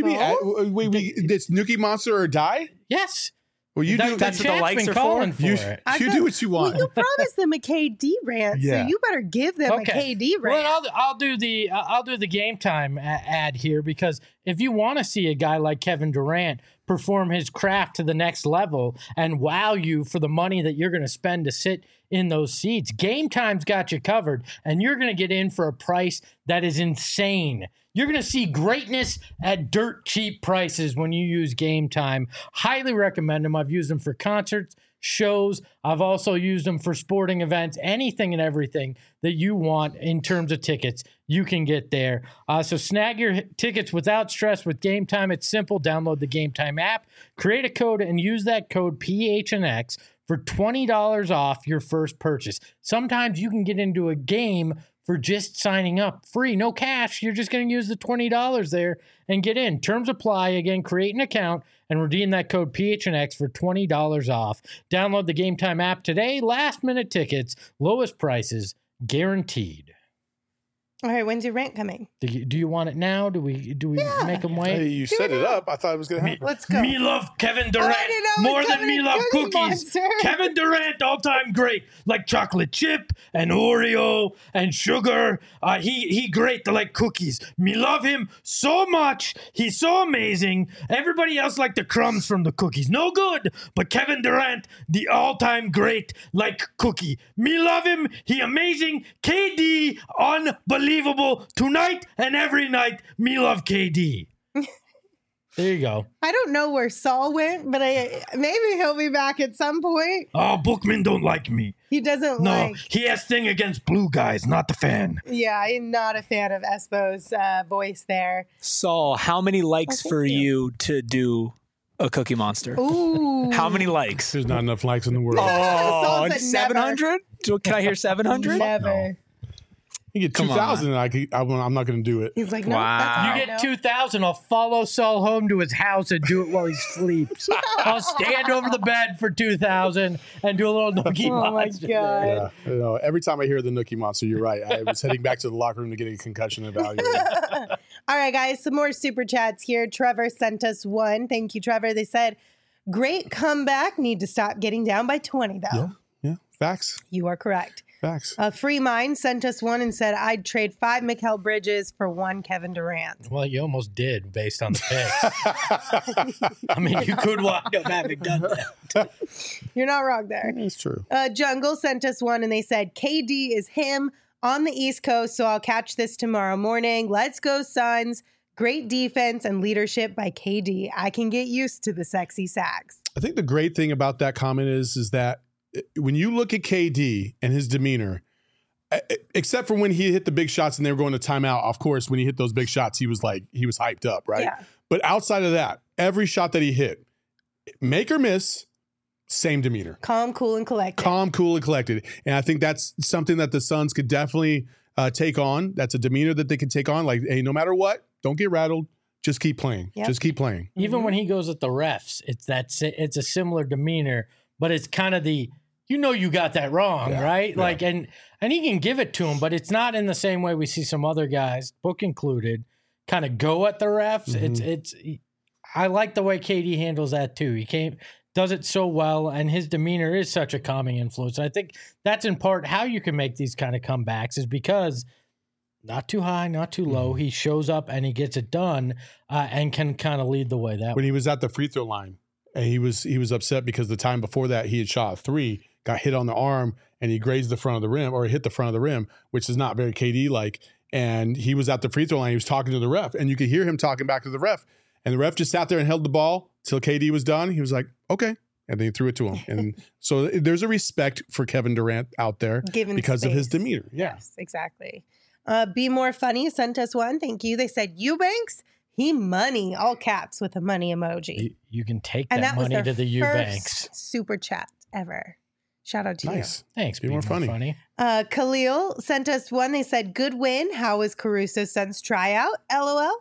it's Nookie Monster or die? Yes. Well, you do. that's what the chat's likes been are for? calling for You, it. I you thought- do what you want. Well, you promised them a KD rant, Yeah. so you better give them a KD rant. Well, I'll do the game time ad here, because if you want to see a guy like Kevin Durant perform his craft to the next level and wow you for the money that you're going to spend to sit in those seats, Game Time's got you covered, and you're going to get in for a price that is insane. You're going to see greatness at dirt cheap prices when you use Game Time. Highly recommend them. I've used them for concerts, shows. I've also used them for sporting events, anything and everything that you want in terms of tickets, you can get there. So snag your tickets without stress with Game Time. It's simple. Download the Game Time app, create a code, and use that code PHNX for $20 off your first purchase. Sometimes you can get into a game for just signing up free, no cash. You're just going to use the $20 there and get in. Terms apply. Again, create an account and redeem that code PHNX for $20 off. Download the Game Time app today. Last minute tickets, lowest prices guaranteed. All right, when's your rant coming? Do you want it now? Do we make them wait? Hey, you set it up. I thought it was going to happen. Let's go. Me love Kevin Durant I didn't know it more was than Kevin me and love Cookie cookies. Monster. Kevin Durant, all-time great, like chocolate chip and Oreo and sugar. He great like cookies. Me love him so much. He's so amazing. Everybody else like the crumbs from the cookies. No good. But Kevin Durant, the all-time great like cookie. Me love him. He amazing. KD, unbelievable. Tonight and every night, me love KD. There you go. I don't know where Saul went, but maybe he'll be back at some point. Oh, Bookman don't like me. He doesn't No, like. he has thing against blue guys, not the fan. Yeah, I'm not a fan of Espo's voice there. Saul, how many likes thank for you. you to do a Cookie Monster? Ooh. How many likes? There's not enough likes in the world. Saul said 700? Can I hear 700? Never. You get Come 2,000 and I'm not going to do it. He's like, no, Wow. that's You not get 2,000, I'll follow Saul home to his house and do it while he sleeps. I'll stand over the bed for 2,000 and do a little nookie Oh my monster. God. Yeah, you know, every time I hear the Nookie Monster, you're right. I was heading back to the locker room to get a concussion evaluated. All right, guys, some more super chats here. Trevor sent us one. Thank you, Trevor. They said, great comeback. Need to stop getting down by 20, though. Yeah, facts. You are correct. Facts. Free Mind sent us one and said, I'd trade 5 Mikal Bridges for 1 Kevin Durant. Well, you almost did based on the picks. I mean, you could wind up having done that. You're not wrong there. That's true. Jungle sent us one and they said, KD is him on the East Coast, so I'll catch this tomorrow morning. Let's go, Suns. Great defense and leadership by KD. I can get used to the sexy sacks. I think the great thing about that comment is that when you look at KD and his demeanor, except for when he hit the big shots and they were going to timeout, of course, when he hit those big shots, he was hyped up, right? Yeah. But outside of that, every shot that he hit, make or miss, same demeanor. Calm, cool, and collected. Calm, cool, and collected. And I think that's something that the Suns could definitely take on. That's a demeanor that they could take on. Like, hey, no matter what, don't get rattled. Just keep playing. Yep. Just keep playing. Even when he goes at the refs, it's a similar demeanor, but it's kind of the you know you got that wrong, Yeah, right? yeah. Like, and he can give it to him, but it's not in the same way we see some other guys, Book included, kind of go at the refs. I like the way KD handles that too. He does it so well, and his demeanor is such a calming influence. And I think that's in part how you can make these kind of comebacks is because not too high, not too low. He shows up and he gets it done, and can kind of lead the way that When way. he was at the free throw line, and he was upset because the time before that he had shot a 3, got hit on the arm, and he grazed the front of the rim, or hit the front of the rim, which is not very KD like. And he was at the free throw line. He was talking to the ref, and you could hear him talking back to the ref. And the ref just sat there and held the ball till KD was done. He was like, "Okay," and then he threw it to him. And so there's a respect for Kevin Durant out there Given because of his space. demeanor. Yeah. Yes, exactly. Be More Funny sent us one. Thank you. They said, Eubanks, he money, all caps with a money emoji. You can take And that that was money their to the Eubanks. first super chat ever. Shout out to Nice. Thanks. Be more funny. you. Khalil sent us one. They said, good win. How was Caruso's son's tryout? LOL.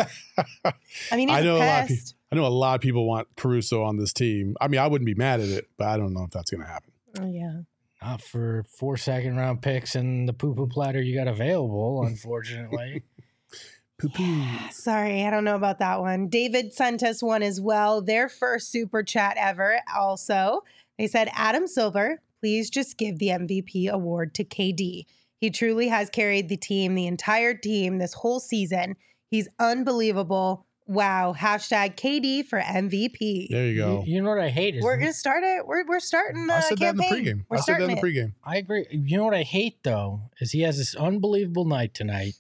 I mean, he's I know a a lot of pest. I know a lot of people want Caruso on this team. I mean, I wouldn't be mad at it, but I don't know if that's going to happen. Oh, yeah. Not for 4 second-round picks and the poo-poo platter you got available, unfortunately. Poo-poo. Sorry, I don't know about that one. David sent us one as well. Their first super chat ever. Also, they said, Adam Silver, please just give the MVP award to KD. He truly has carried the team, the entire team, this whole season. He's unbelievable. Wow. Hashtag KD for MVP. There you go. You know what I hate is We're gonna start it. We're starting the I said that in the campaign. pregame. We're I said that in the starting it. pregame. I agree. You know what I hate though is he has this unbelievable night tonight.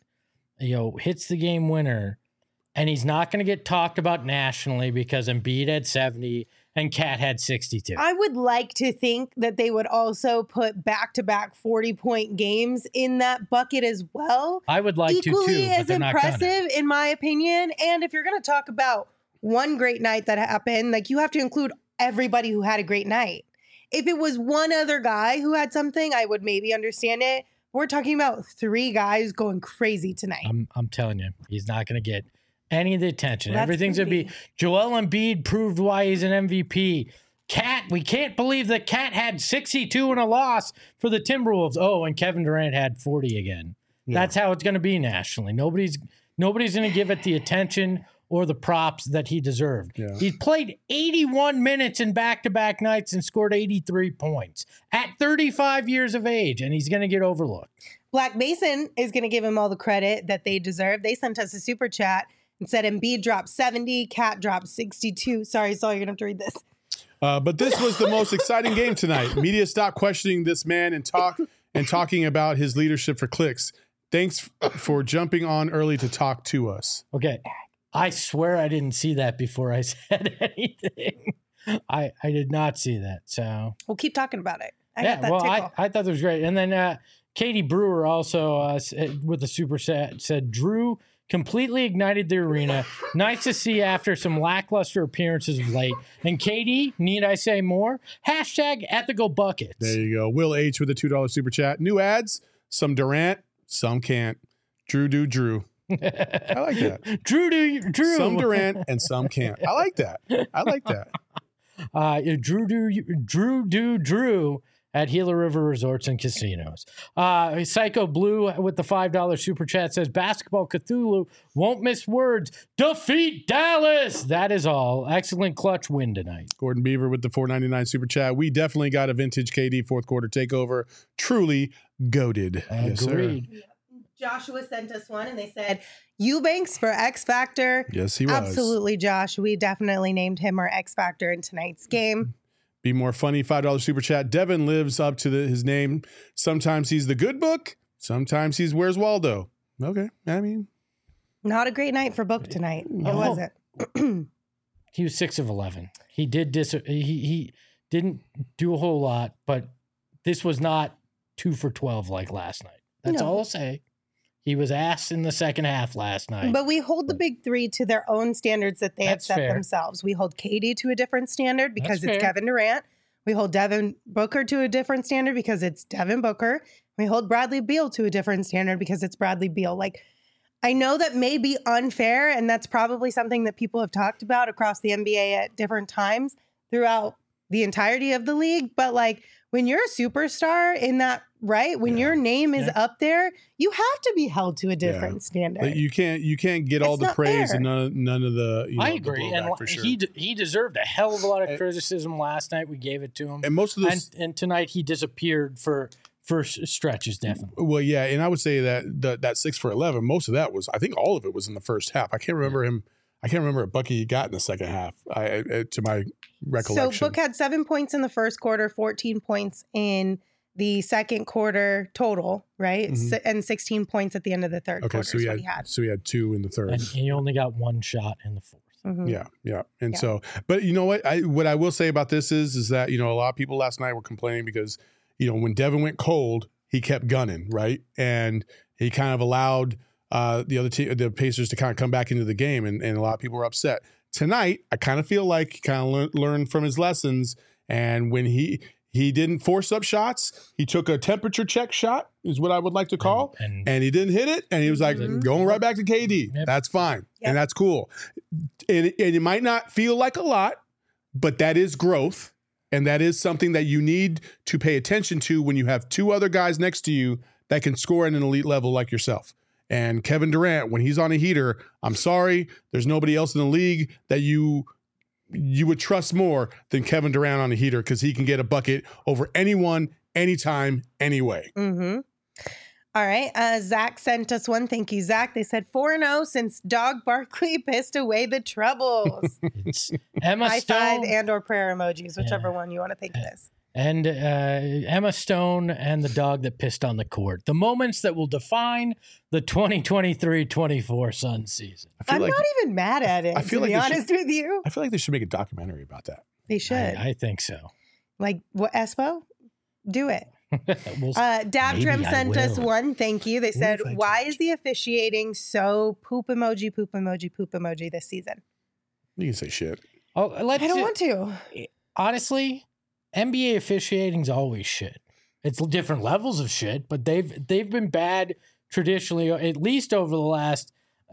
Hits the game winner, and he's not going to get talked about nationally because Embiid had 70 and Cat had 62. I would like to think that they would also put back-to-back 40-point games in that bucket as well. I would like Equally to too, but as they're not gonna. impressive, in my opinion. And if you're going to talk about one great night that happened, like you have to include everybody who had a great night. If it was one other guy who had something, I would maybe understand it. We're talking about 3 guys going crazy tonight. I'm telling you, he's not going to get any of the attention. That's Everything's going to be Joel Embiid proved why he's an MVP. Cat, we can't believe that Cat had 62 in a loss for the Timberwolves. Oh, and Kevin Durant had 40 again. Yeah. That's how it's going to be nationally. Nobody's going to give it the attention or the props that he deserved. Yeah. He played 81 minutes in back-to-back nights and scored 83 points at 35 years of age, and he's going to get overlooked. Black Mason is going to give him all the credit that they deserve. They sent us a super chat and said Embiid dropped 70, Cat dropped 62. Sorry, Saul, you're going to have to read this. But this was the most exciting game tonight. Media stopped questioning this man and talking about his leadership for clicks. Thanks for jumping on early to talk to us. Okay. I swear I didn't see that before I said anything. I did not see that. So We'll keep talking about it. I got that well, tickle. I thought that was great. And then Katie Brewer also with the super set said Drew completely ignited the arena. Nice to see after some lackluster appearances of late. And Katie, need I say more? Hashtag ethical buckets. There you go. Will H with a $2 super chat. New ads, some Durant, some can't. Drew do Drew. I like that. Drew. Some Durant and some can't. I like that. Drew at Gila River Resorts and Casinos. Psycho Blue with the $5 super chat says Basketball Cthulhu won't miss words. Defeat Dallas. That is all. Excellent clutch win tonight. Gordon Beaver with the $4.99 super chat. We definitely got a vintage KD fourth quarter takeover. Truly goated. Yes, sir. Agreed. Joshua sent us one and they said, Eubanks for X Factor. Yes, he was. Absolutely, Josh. We definitely named him our X Factor in tonight's game. Be more funny. $5 super chat. Devin lives up to his name. Sometimes he's the good book. Sometimes he's Where's Waldo. Okay. I mean, Not a great night for Book tonight. It wasn't. He was 6 of 11. He did he didn't do a whole lot, but this was not 2 for 12 like last night. That's No. all I'll say. He was ass in the second half last night. But we hold the big 3 to their own standards that they have That's set fair. themselves. We hold KD to a different standard because That's it's fair. Kevin Durant. We hold Devin Booker to a different standard because it's Devin Booker. We hold Bradley Beal to a different standard because it's Bradley Beal. Like, I know that may be unfair, and that's probably something that people have talked about across the NBA at different times throughout the entirety of the league, but like when you're a superstar in that, right? When your name is up there, you have to be held to a different standard. But you can't get all the praise and none of the. I agree, and for sure. he deserved a hell of a lot of criticism last night. We gave it to him, and most of this, and tonight he disappeared for stretches, definitely. Well, yeah, and I would say that 6 for 11, most of that was, I think all of it was in the first half. I can't remember a bucket he got in the second half, to my recollection. So Book had 7 points in the first quarter, 14 points in the second quarter total, right? And 16 points at the end of the third quarter. So he had 2 in the third. And he only got 1 shot in the fourth. Yeah. And so, but you know what I will say about this is that, a lot of people last night were complaining because, when Devin went cold, he kept gunning, right? And he kind of allowed the Pacers to kind of come back into the game, and a lot of people were upset. Tonight, I kind of feel like he kind of learned from his lessons, and when he didn't force up shots, he took a temperature check shot, is what I would like to call, and he didn't hit it, and he was like, going right back to KD. Yep. That's fine, and that's cool. And it might not feel like a lot, but that is growth. And that is something that you need to pay attention to when you have 2 other guys next to you that can score at an elite level like yourself. And Kevin Durant, when he's on a heater, I'm sorry, there's nobody else in the league that you would trust more than Kevin Durant on a heater, because he can get a bucket over anyone, anytime, anyway. Mm-hmm. All right. Zach sent us one. Thank you, Zach. They said 4-0 since Dog Barkley pissed away the troubles. It's Emma High Stone five and or prayer emojis, whichever one you want to think it is. And Emma Stone and the dog that pissed on the court. The moments that will define the 2023-24 Suns season. I'm not even mad at it, to be honest with you. I feel like they should make a documentary about that. They should. I think so. Like, what, Espo? Do it. Maybe Dabdrum I sent us will. one. Thank you. They said, why is the officiating so poop emoji this season? You can say shit. Oh, I don't want to. Honestly, NBA officiating's always shit. It's different levels of shit, but they've been bad traditionally, at least over the last,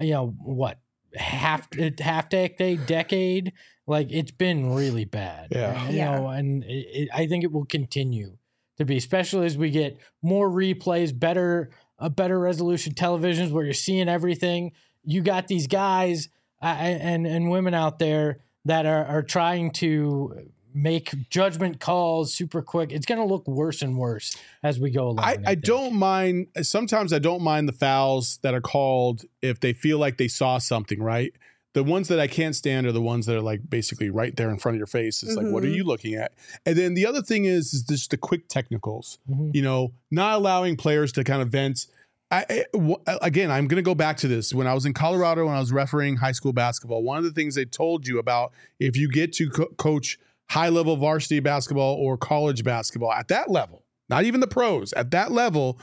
half decade. Like, it's been really bad. Yeah. And I think it will continue to be, especially as we get more replays, better resolution televisions where you're seeing everything. You got these guys and women out there that are trying to make judgment calls super quick. It's going to look worse and worse as we go along. I don't mind. Sometimes I don't mind the fouls that are called if they feel like they saw something, right? The ones that I can't stand are the ones that are like basically right there in front of your face. It's like, what are you looking at? And then the other thing is just the quick technicals, not allowing players to kind of vent. Again, I'm going to go back to this. When I was in Colorado, when I was refereeing high school basketball, one of the things they told you about if you get to coach high-level varsity basketball or college basketball at that level, not even the pros, at that level,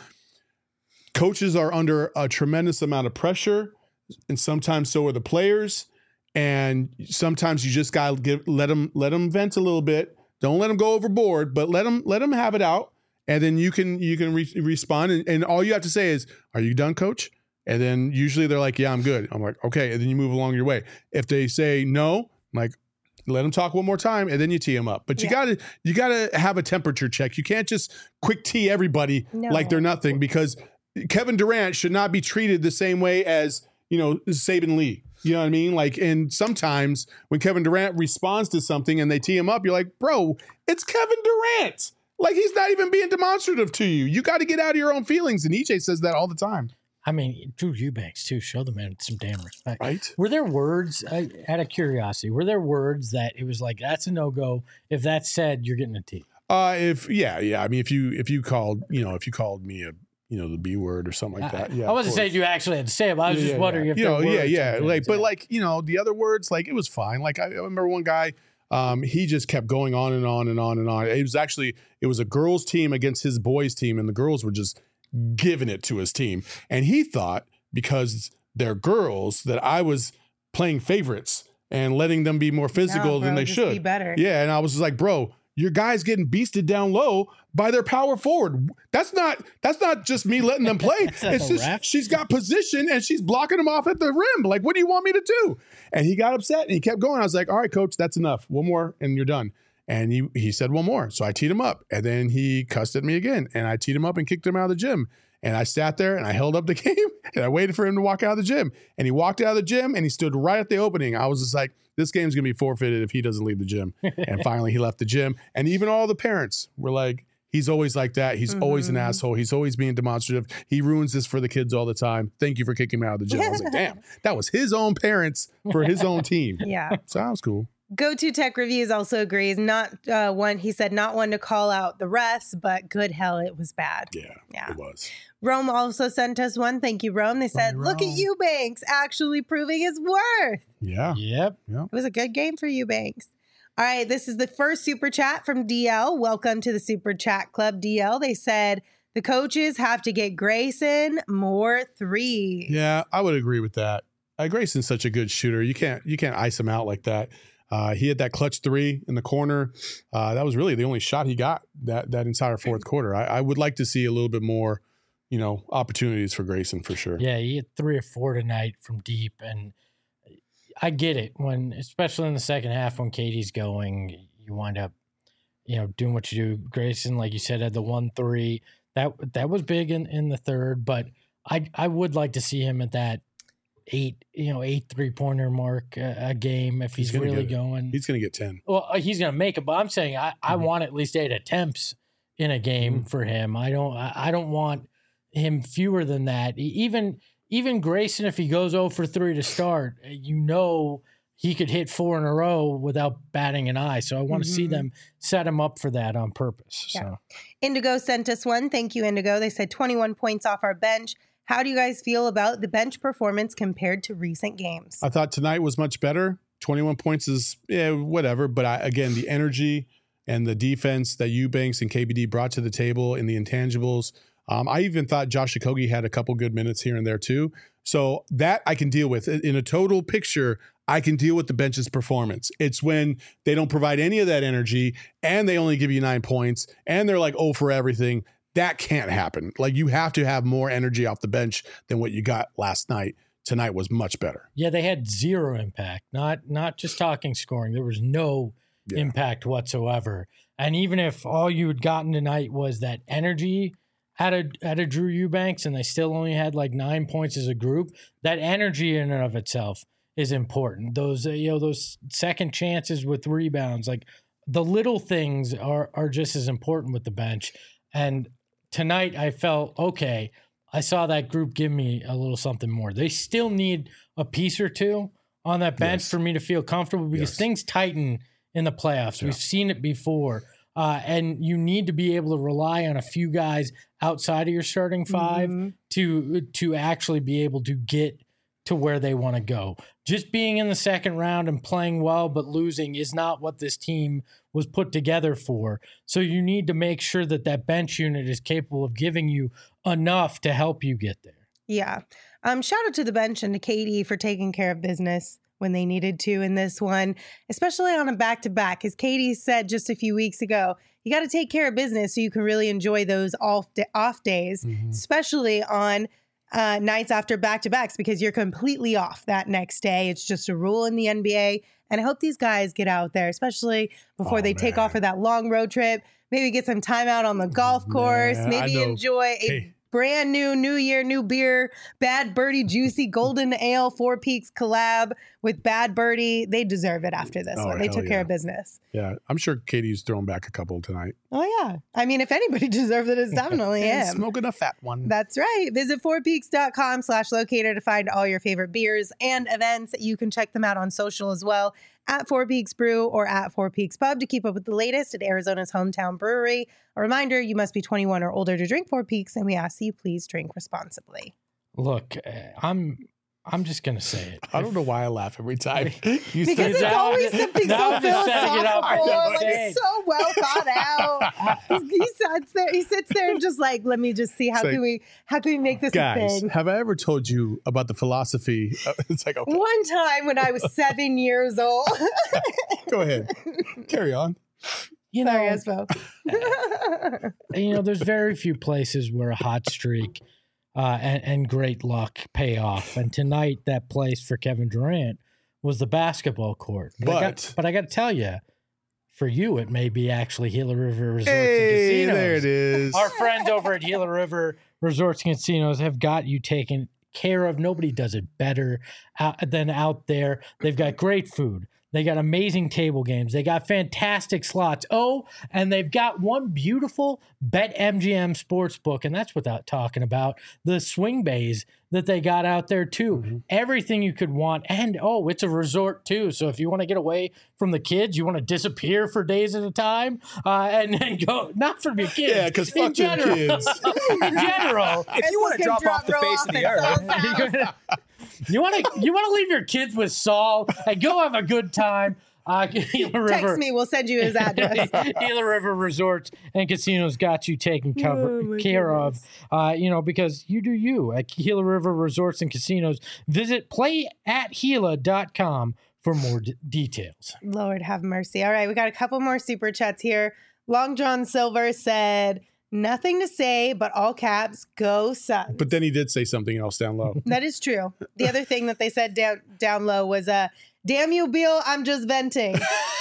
coaches are under a tremendous amount of pressure, and sometimes so are the players. And sometimes you just got to let them vent a little bit. Don't let them go overboard, but let them have it out. And then you can respond. And all you have to say is, "Are you done, coach?" And then usually they're like, "Yeah, I'm good." I'm like, "Okay." And then you move along your way. If they say no, I'm like, let them talk one more time, and then you tee them up. But you gotta have a temperature check. You can't just quick tee everybody like they're nothing, because Kevin Durant should not be treated the same way as Saban Lee. You know what I mean? Like, and sometimes when Kevin Durant responds to something and they tee him up, you're like, bro, it's Kevin Durant. Like, he's not even being demonstrative to you. You got to get out of your own feelings. And EJ says that all the time. I mean, Drew Eubanks, too. Show the man some damn respect. Right? Were there words, out of curiosity, that it was like, that's a no-go? If that's said, you're getting a tee. I mean, if you called me a, the B word or something like that. Yeah. I wasn't saying you actually had to say it, but I was just wondering if there were words. Like, the other words, like, it was fine. Like, I remember one guy, he just kept going on and on and on and on. It was a girls' team against his boys' team, and the girls were just giving it to his team. And he thought, because they're girls, that I was playing favorites and letting them be more physical than they should. Be better. Yeah. And I was just like, bro, your guy's getting beasted down low by their power forward. That's not just me letting them play. It's just she's got position and she's blocking them off at the rim. Like, what do you want me to do? And he got upset and he kept going. I was like, all right, coach, that's enough. One more and you're done. And he said one more. So I teed him up. And then he cussed at me again. And I teed him up and kicked him out of the gym. And I sat there and I held up the game and I waited for him to walk out of the gym. And he walked out of the gym and he stood right at the opening. I was just like, this game's going to be forfeited if he doesn't leave the gym. And finally he left the gym. And even all the parents were like, he's always like that. He's always an asshole. He's always being demonstrative. He ruins this for the kids all the time. Thank you for kicking him out of the gym. I was like, damn, that was his own parents for his own team. Yeah. Sounds cool. Go-To Tech Reviews also agrees. Not one, he said, not one to call out the refs, but good hell, it was bad. Yeah, it was. Rome also sent us one. Thank you, Rome. They said, look at Eubanks actually proving his worth. Yeah. Yep. It was a good game for Eubanks. All right, this is the first super chat from DL. Welcome to the Super Chat Club, DL. They said the coaches have to get Grayson more threes. Yeah, I would agree with that. Grayson's such a good shooter. You can't ice him out like that. He had that clutch three in the corner. That was really the only shot he got that entire fourth quarter. I would like to see a little bit more, opportunities for Grayson for sure. Yeah, he had 3 or 4 tonight from deep, and I get it especially in the second half when Katie's going, you wind up, doing what you do. Grayson, like you said, had the 1-3 that was big in the third, but I would like to see him at that 8 3-pointer mark a game if he's really going. He's going to get 10. Well, he's going to make it, but I'm saying I want at least 8 attempts in a game for him. I don't want him fewer than that. Even Grayson, if he goes 0 for 3 to start, he could hit 4 in a row without batting an eye. So I want to see them set him up for that on purpose. Yeah. So Indigo sent us one. Thank you, Indigo. They said 21 points off our bench. How do you guys feel about the bench performance compared to recent games? I thought tonight was much better. 21 points is, whatever. But again, the energy and the defense that Eubanks and KBD brought to the table in the intangibles. I even thought Josh Okogie had a couple good minutes here and there too. So that I can deal with. In a total picture, I can deal with the bench's performance. It's when they don't provide any of that energy and they only give you 9 points and they're like, oh, for everything. That can't happen. Like, you have to have more energy off the bench than what you got last night. Tonight was much better. yeah, they had 0 impact. Not just talking scoring. There was no impact whatsoever. And even if all you had gotten tonight was that energy out of Drew Eubanks, and they still only had like 9 points as a group, that energy in and of itself is important. Those those second chances with rebounds, like the little things are just as important with the bench. And tonight I felt, okay, I saw that group give me a little something more. They still need a piece or two on that bench for me to feel comfortable because things tighten in the playoffs. Yeah. We've seen it before. And you need to be able to rely on a few guys outside of your starting 5 to actually be able to get to where they want to go. Just being in the second round and playing well but losing is not what this team was put together for. So you need to make sure that that bench unit is capable of giving you enough to help you get there. Yeah. Shout out to the bench and to Katie for taking care of business when they needed to in this one, especially on a back-to-back. As Katie said just a few weeks ago, you got to take care of business so you can really enjoy those off days, especially on nights after back-to-backs, because you're completely off that next day. It's just a rule in the NBA. And I hope these guys get out there, especially before they take off for that long road trip, maybe get some time out on the golf course, maybe enjoy a brand new year, new beer, Bad Birdie Juicy Golden Ale 4 Peaks collab with Bad Birdie. They deserve it after this one. They took care of business. Yeah, I'm sure Katie's throwing back a couple tonight. Oh, yeah. I mean, if anybody deserves it, it's definitely him. Smoking a fat one. That's right. Visit 4peaks.com/locator to find all your favorite beers and events. You can check them out on social as well, at 4 Peaks Brew or at 4 Peaks Pub to keep up with the latest at Arizona's hometown brewery. A reminder, you must be 21 or older to drink 4 Peaks, and we ask you please drink responsibly. Look, I'm just going to say it. I don't know why I laugh every time. Because it's always something so philosophical, like it's so well thought out. He sits there and just like, let me just see how can we make this a thing. Have I ever told you about the philosophy? It's like, okay. One time when I was 7 years old. Go ahead. Carry on. Sorry, Espo. There's very few places where a hot streak and great luck pay off. And tonight, that place for Kevin Durant was the basketball court. But I got to tell you, For you, it may be actually Gila River Resorts and Hey, Casinos. there it is. Our friends over at Gila River Resorts and Casinos have got you taken care of. Nobody does it better than out there. They've got great food. They got amazing table games. They got fantastic slots. Oh, and they've got one beautiful BetMGM sportsbook, and that's without talking about the swing bays that they got out there too. Mm-hmm. Everything you could want. And it's a resort too. So if you want to get away from the kids, you want to disappear for days at a time, and then go, not from your kids. Yeah, because fuck in them general. kids. In general. If you want to drop off the face of the earth, You want to leave your kids with Saul and go have a good time. Gila River. Text me. We'll send you his address. Gila River Resorts and Casinos got you taken care of, because you do you at Gila River Resorts and Casinos. Visit playatgila.com for more details. Lord have mercy. All right, we got a couple more super chats here. Long John Silver said, nothing to say, but all caps, go Suns. But then he did say something else down low. That is true. The other thing that they said down low was, damn you, Beal, I'm just venting.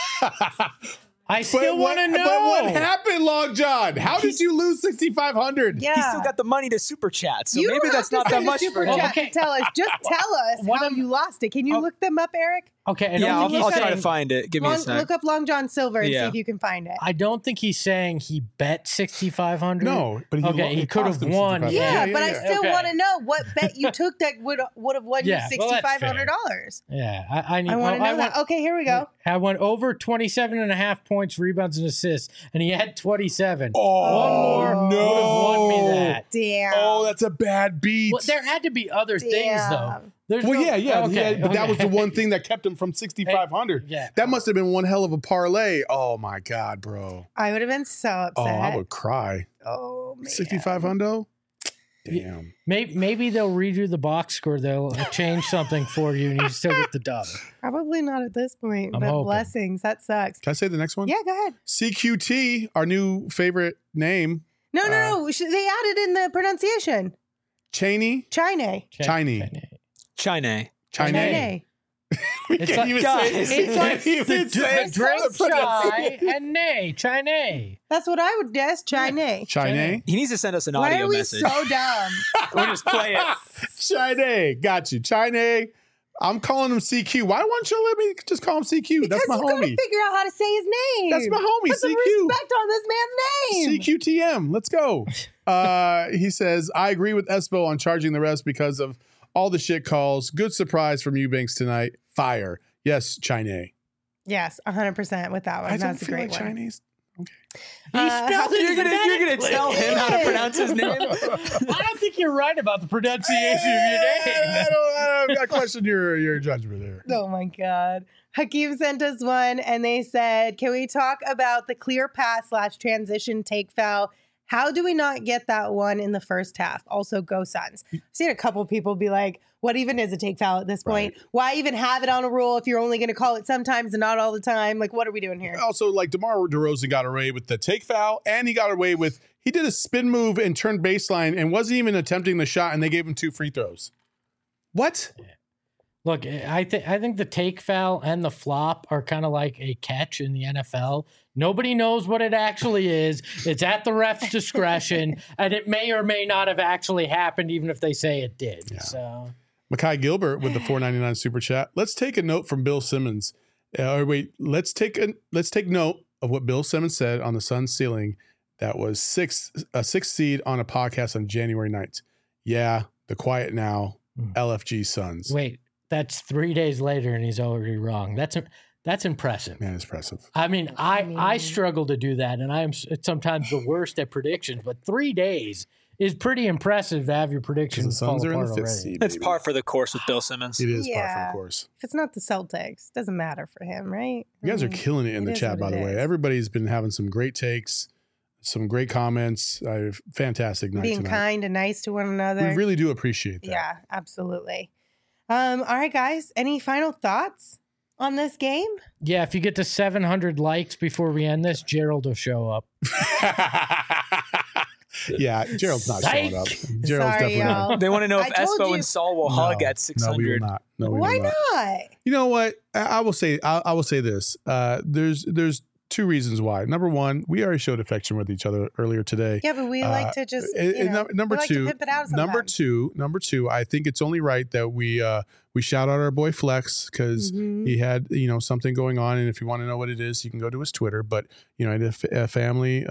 I still want to know. But what happened, Long John? How did you lose 6,500? Yeah. he still got the money to super chat, so You maybe don't that's have not to that send a much super for him. chat to tell us. Just tell us how you lost it. Can you look them up, Eric? Okay. And Yeah, only I'll he's try to saying- find it. Give me a sec. Look up Long John Silver and see Yeah. if you can find it. I don't think he's saying he bet 6,500. No, but he could have cost him won. 65. Yeah, but I yeah. still Okay. want to know what bet you took that would have won Yeah, you well, that's fair. $6,500. Yeah, I need. I want to know that. Okay, here we go. I went over 27.5 points, rebounds, and assists, and he had 27. Oh, One more no. would have won me that. Damn. Oh, that's a bad beat. Well, there had to be other things, though. Damn. There's Well, no- yeah, but that was the okay. one thing that kept him from 6,500. Yeah. That must have been one hell of a parlay. Oh, my God, bro. I would have been so upset. Oh, I would cry. Oh, man. 6,500? Damn. Maybe they'll redo the box score. They'll change something for you, and you still get the dub. Probably not at this point, I'm but hoping. blessings. That sucks. Can I say the next one? Yeah, go ahead. CQT, our new favorite name. No. They added in the pronunciation. Cheney. Chine. Chinese. China. China. We It's can't like- even guys, say It's like even the say drink the chai and nay, China. That's what I would guess. Chine. China. He needs to send us an Why audio are we message. so dumb? We'll just play it. China. Got you. China. I'm calling him CQ. Why don't you let me just call him CQ? Because That's my you gotta homie. figure out how to say his name. That's my homie, Put some CQ. respect on this man's name. CQTM. Let's go. He says, I agree with Espo on charging the rest because of all the shit calls. Good surprise from Eubanks tonight. Fire. Yes, China. Yes, 100% with that one. I don't That's a feel great like one. Chinese. Okay. He spelled it You're gonna phonetically. tell him how to pronounce his name? I don't think you're right about the pronunciation of your name. I question your judgment there. Oh my God. Hakeem sent us one and they said, can we talk about the clear pass / transition take foul? How do we not get that one in the first half? Also, go Suns. I've seen a couple people be like, what even is a take foul at this point? Right. Why even have it on a rule if you're only going to call it sometimes and not all the time? Like, what are we doing here? Also, like DeMar DeRozan got away with the take foul, and he got away with he did a spin move and turned baseline and wasn't even attempting the shot, and they gave him 2 free throws. What? Look, I think the take foul and the flop are kind of like a catch in the NFL. Nobody knows what it actually is. It's at the ref's discretion, and it may or may not have actually happened, even if they say it did. Yeah. So, Makai Gilbert with the $4.99 super chat. Let's take a note from Bill Simmons. Let's take note of what Bill Simmons said on the Suns ceiling. That was a sixth seed on a podcast on January 9th. Yeah, the quiet now. LFG Suns. wait, that's 3 days later, and he's already wrong. That's impressive. Man, it's impressive. I mean, I struggle to do that, and I'm sometimes the worst at predictions. But 3 days is pretty impressive to have your The predictions fall Suns are in apart the 5th already. seed. It's baby. par for the course with Bill Simmons. It is par for Yeah. the course. If it's not the Celtics, doesn't matter for him, right? You guys are killing it in the is chat, what by it the way. is. Everybody's been having some great takes, some great comments. Fantastic night Being tonight. kind and nice to one another. We really do appreciate that. Yeah, absolutely. All right, guys. Any final thoughts on this game? Yeah, if you get to 700 likes before we end this, Gerald will show up. Yeah, Gerald's not showing up. Gerald's Sorry, definitely y'all. not. They want to know if I told Espo you- and Saul will hug at No, we will 600. not. No, we Why will not. not? You know what? I will say. I will say this. There's two reasons why. Number one, we already showed affection with each other earlier today. Yeah, but we like to just number we like two, to pimp it out number sometimes. two. I think it's only right that we shout out our boy Flex because he had something going on, and if you want to know what it is, you can go to his Twitter. But a family,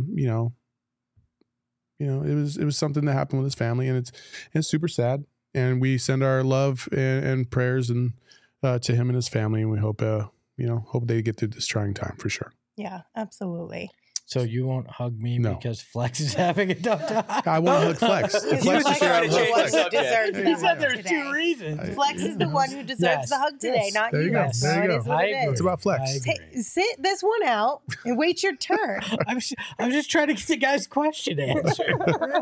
it was something that happened with his family, and it's super sad. And we send our love and prayers and to him and his family, and we hope they get through this trying time for sure. Yeah, absolutely. So you won't hug me No. because Flex is having a tough time? I want to hug Flex. Because Flex Flex is here. is the one who subject. deserves He the said hug there's today. two reasons. Flex is the one who deserves Yes. the hug today, Yes. not There you you. go. So There you it go. is what I it agree. is. It's about Flex. I agree. Sit this one out and wait your turn. I'm just trying to get the guy's question answered.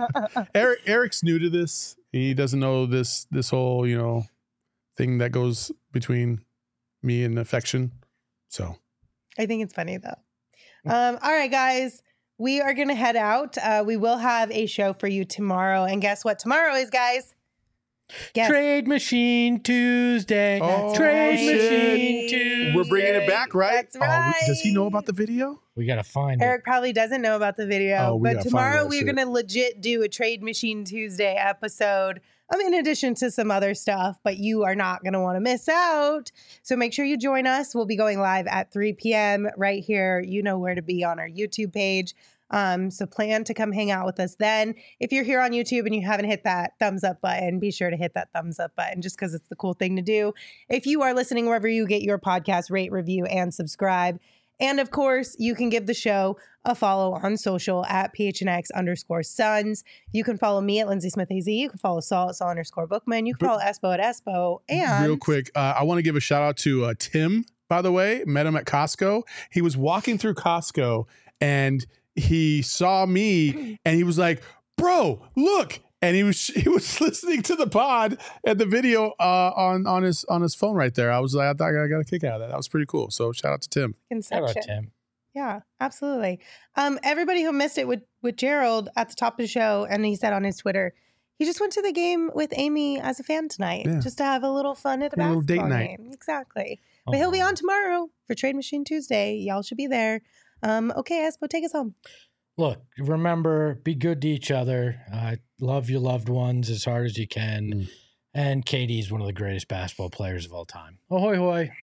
Eric's new to this. He doesn't know this whole thing that goes between me and affection. So I think it's funny though. All right, guys, we are gonna head out. We will have a show for you tomorrow, and guess what tomorrow is, guys? Guess. Trade Machine Tuesday. Oh, Trade shit. Machine Tuesday. we're bringing it back, right? That's right. Does he know about the video? We got to find Eric probably doesn't know about the video, Oh, we but gotta tomorrow find that we're shit. going to legit do a Trade Machine Tuesday episode. In addition to some other stuff, but you are not going to want to miss out. So make sure you join us. We'll be going live at 3 p.m. right here. You know where to be on our YouTube page. So plan to come hang out with us then. If you're here on YouTube and you haven't hit that thumbs up button, be sure to hit that thumbs up button just because it's the cool thing to do. If you are listening wherever you get your podcast, rate, review, and subscribe. And of course, you can give the show a follow on social at PHNX_Sons. You can follow me at Lindsay Smith AZ. You can follow Saul at Saul_Bookman. You can follow Espo at Espo. And Real quick, I want to give a shout out to Tim, by the way. Met him at Costco. He was walking through Costco and he saw me and he was like, "Bro, look." And he was listening to the pod and the video on his phone right there. I was like, I thought I got a kick out of that. That was pretty cool. So shout out to Tim. Shout out Inception. Tim. Yeah, absolutely. Everybody who missed it with Gerald at the top of the show, and he said on his Twitter, he just went to the game with Amy as a fan tonight, Yeah. just to have a little fun at the Yeah, a little basketball date night. game. Exactly. But he'll be on tomorrow for Trade Machine Tuesday. Y'all should be there. Okay, Espo, take us home. Look, remember, be good to each other. Love your loved ones as hard as you can. And Katie's one of the greatest basketball players of all time. Ahoy, hoy.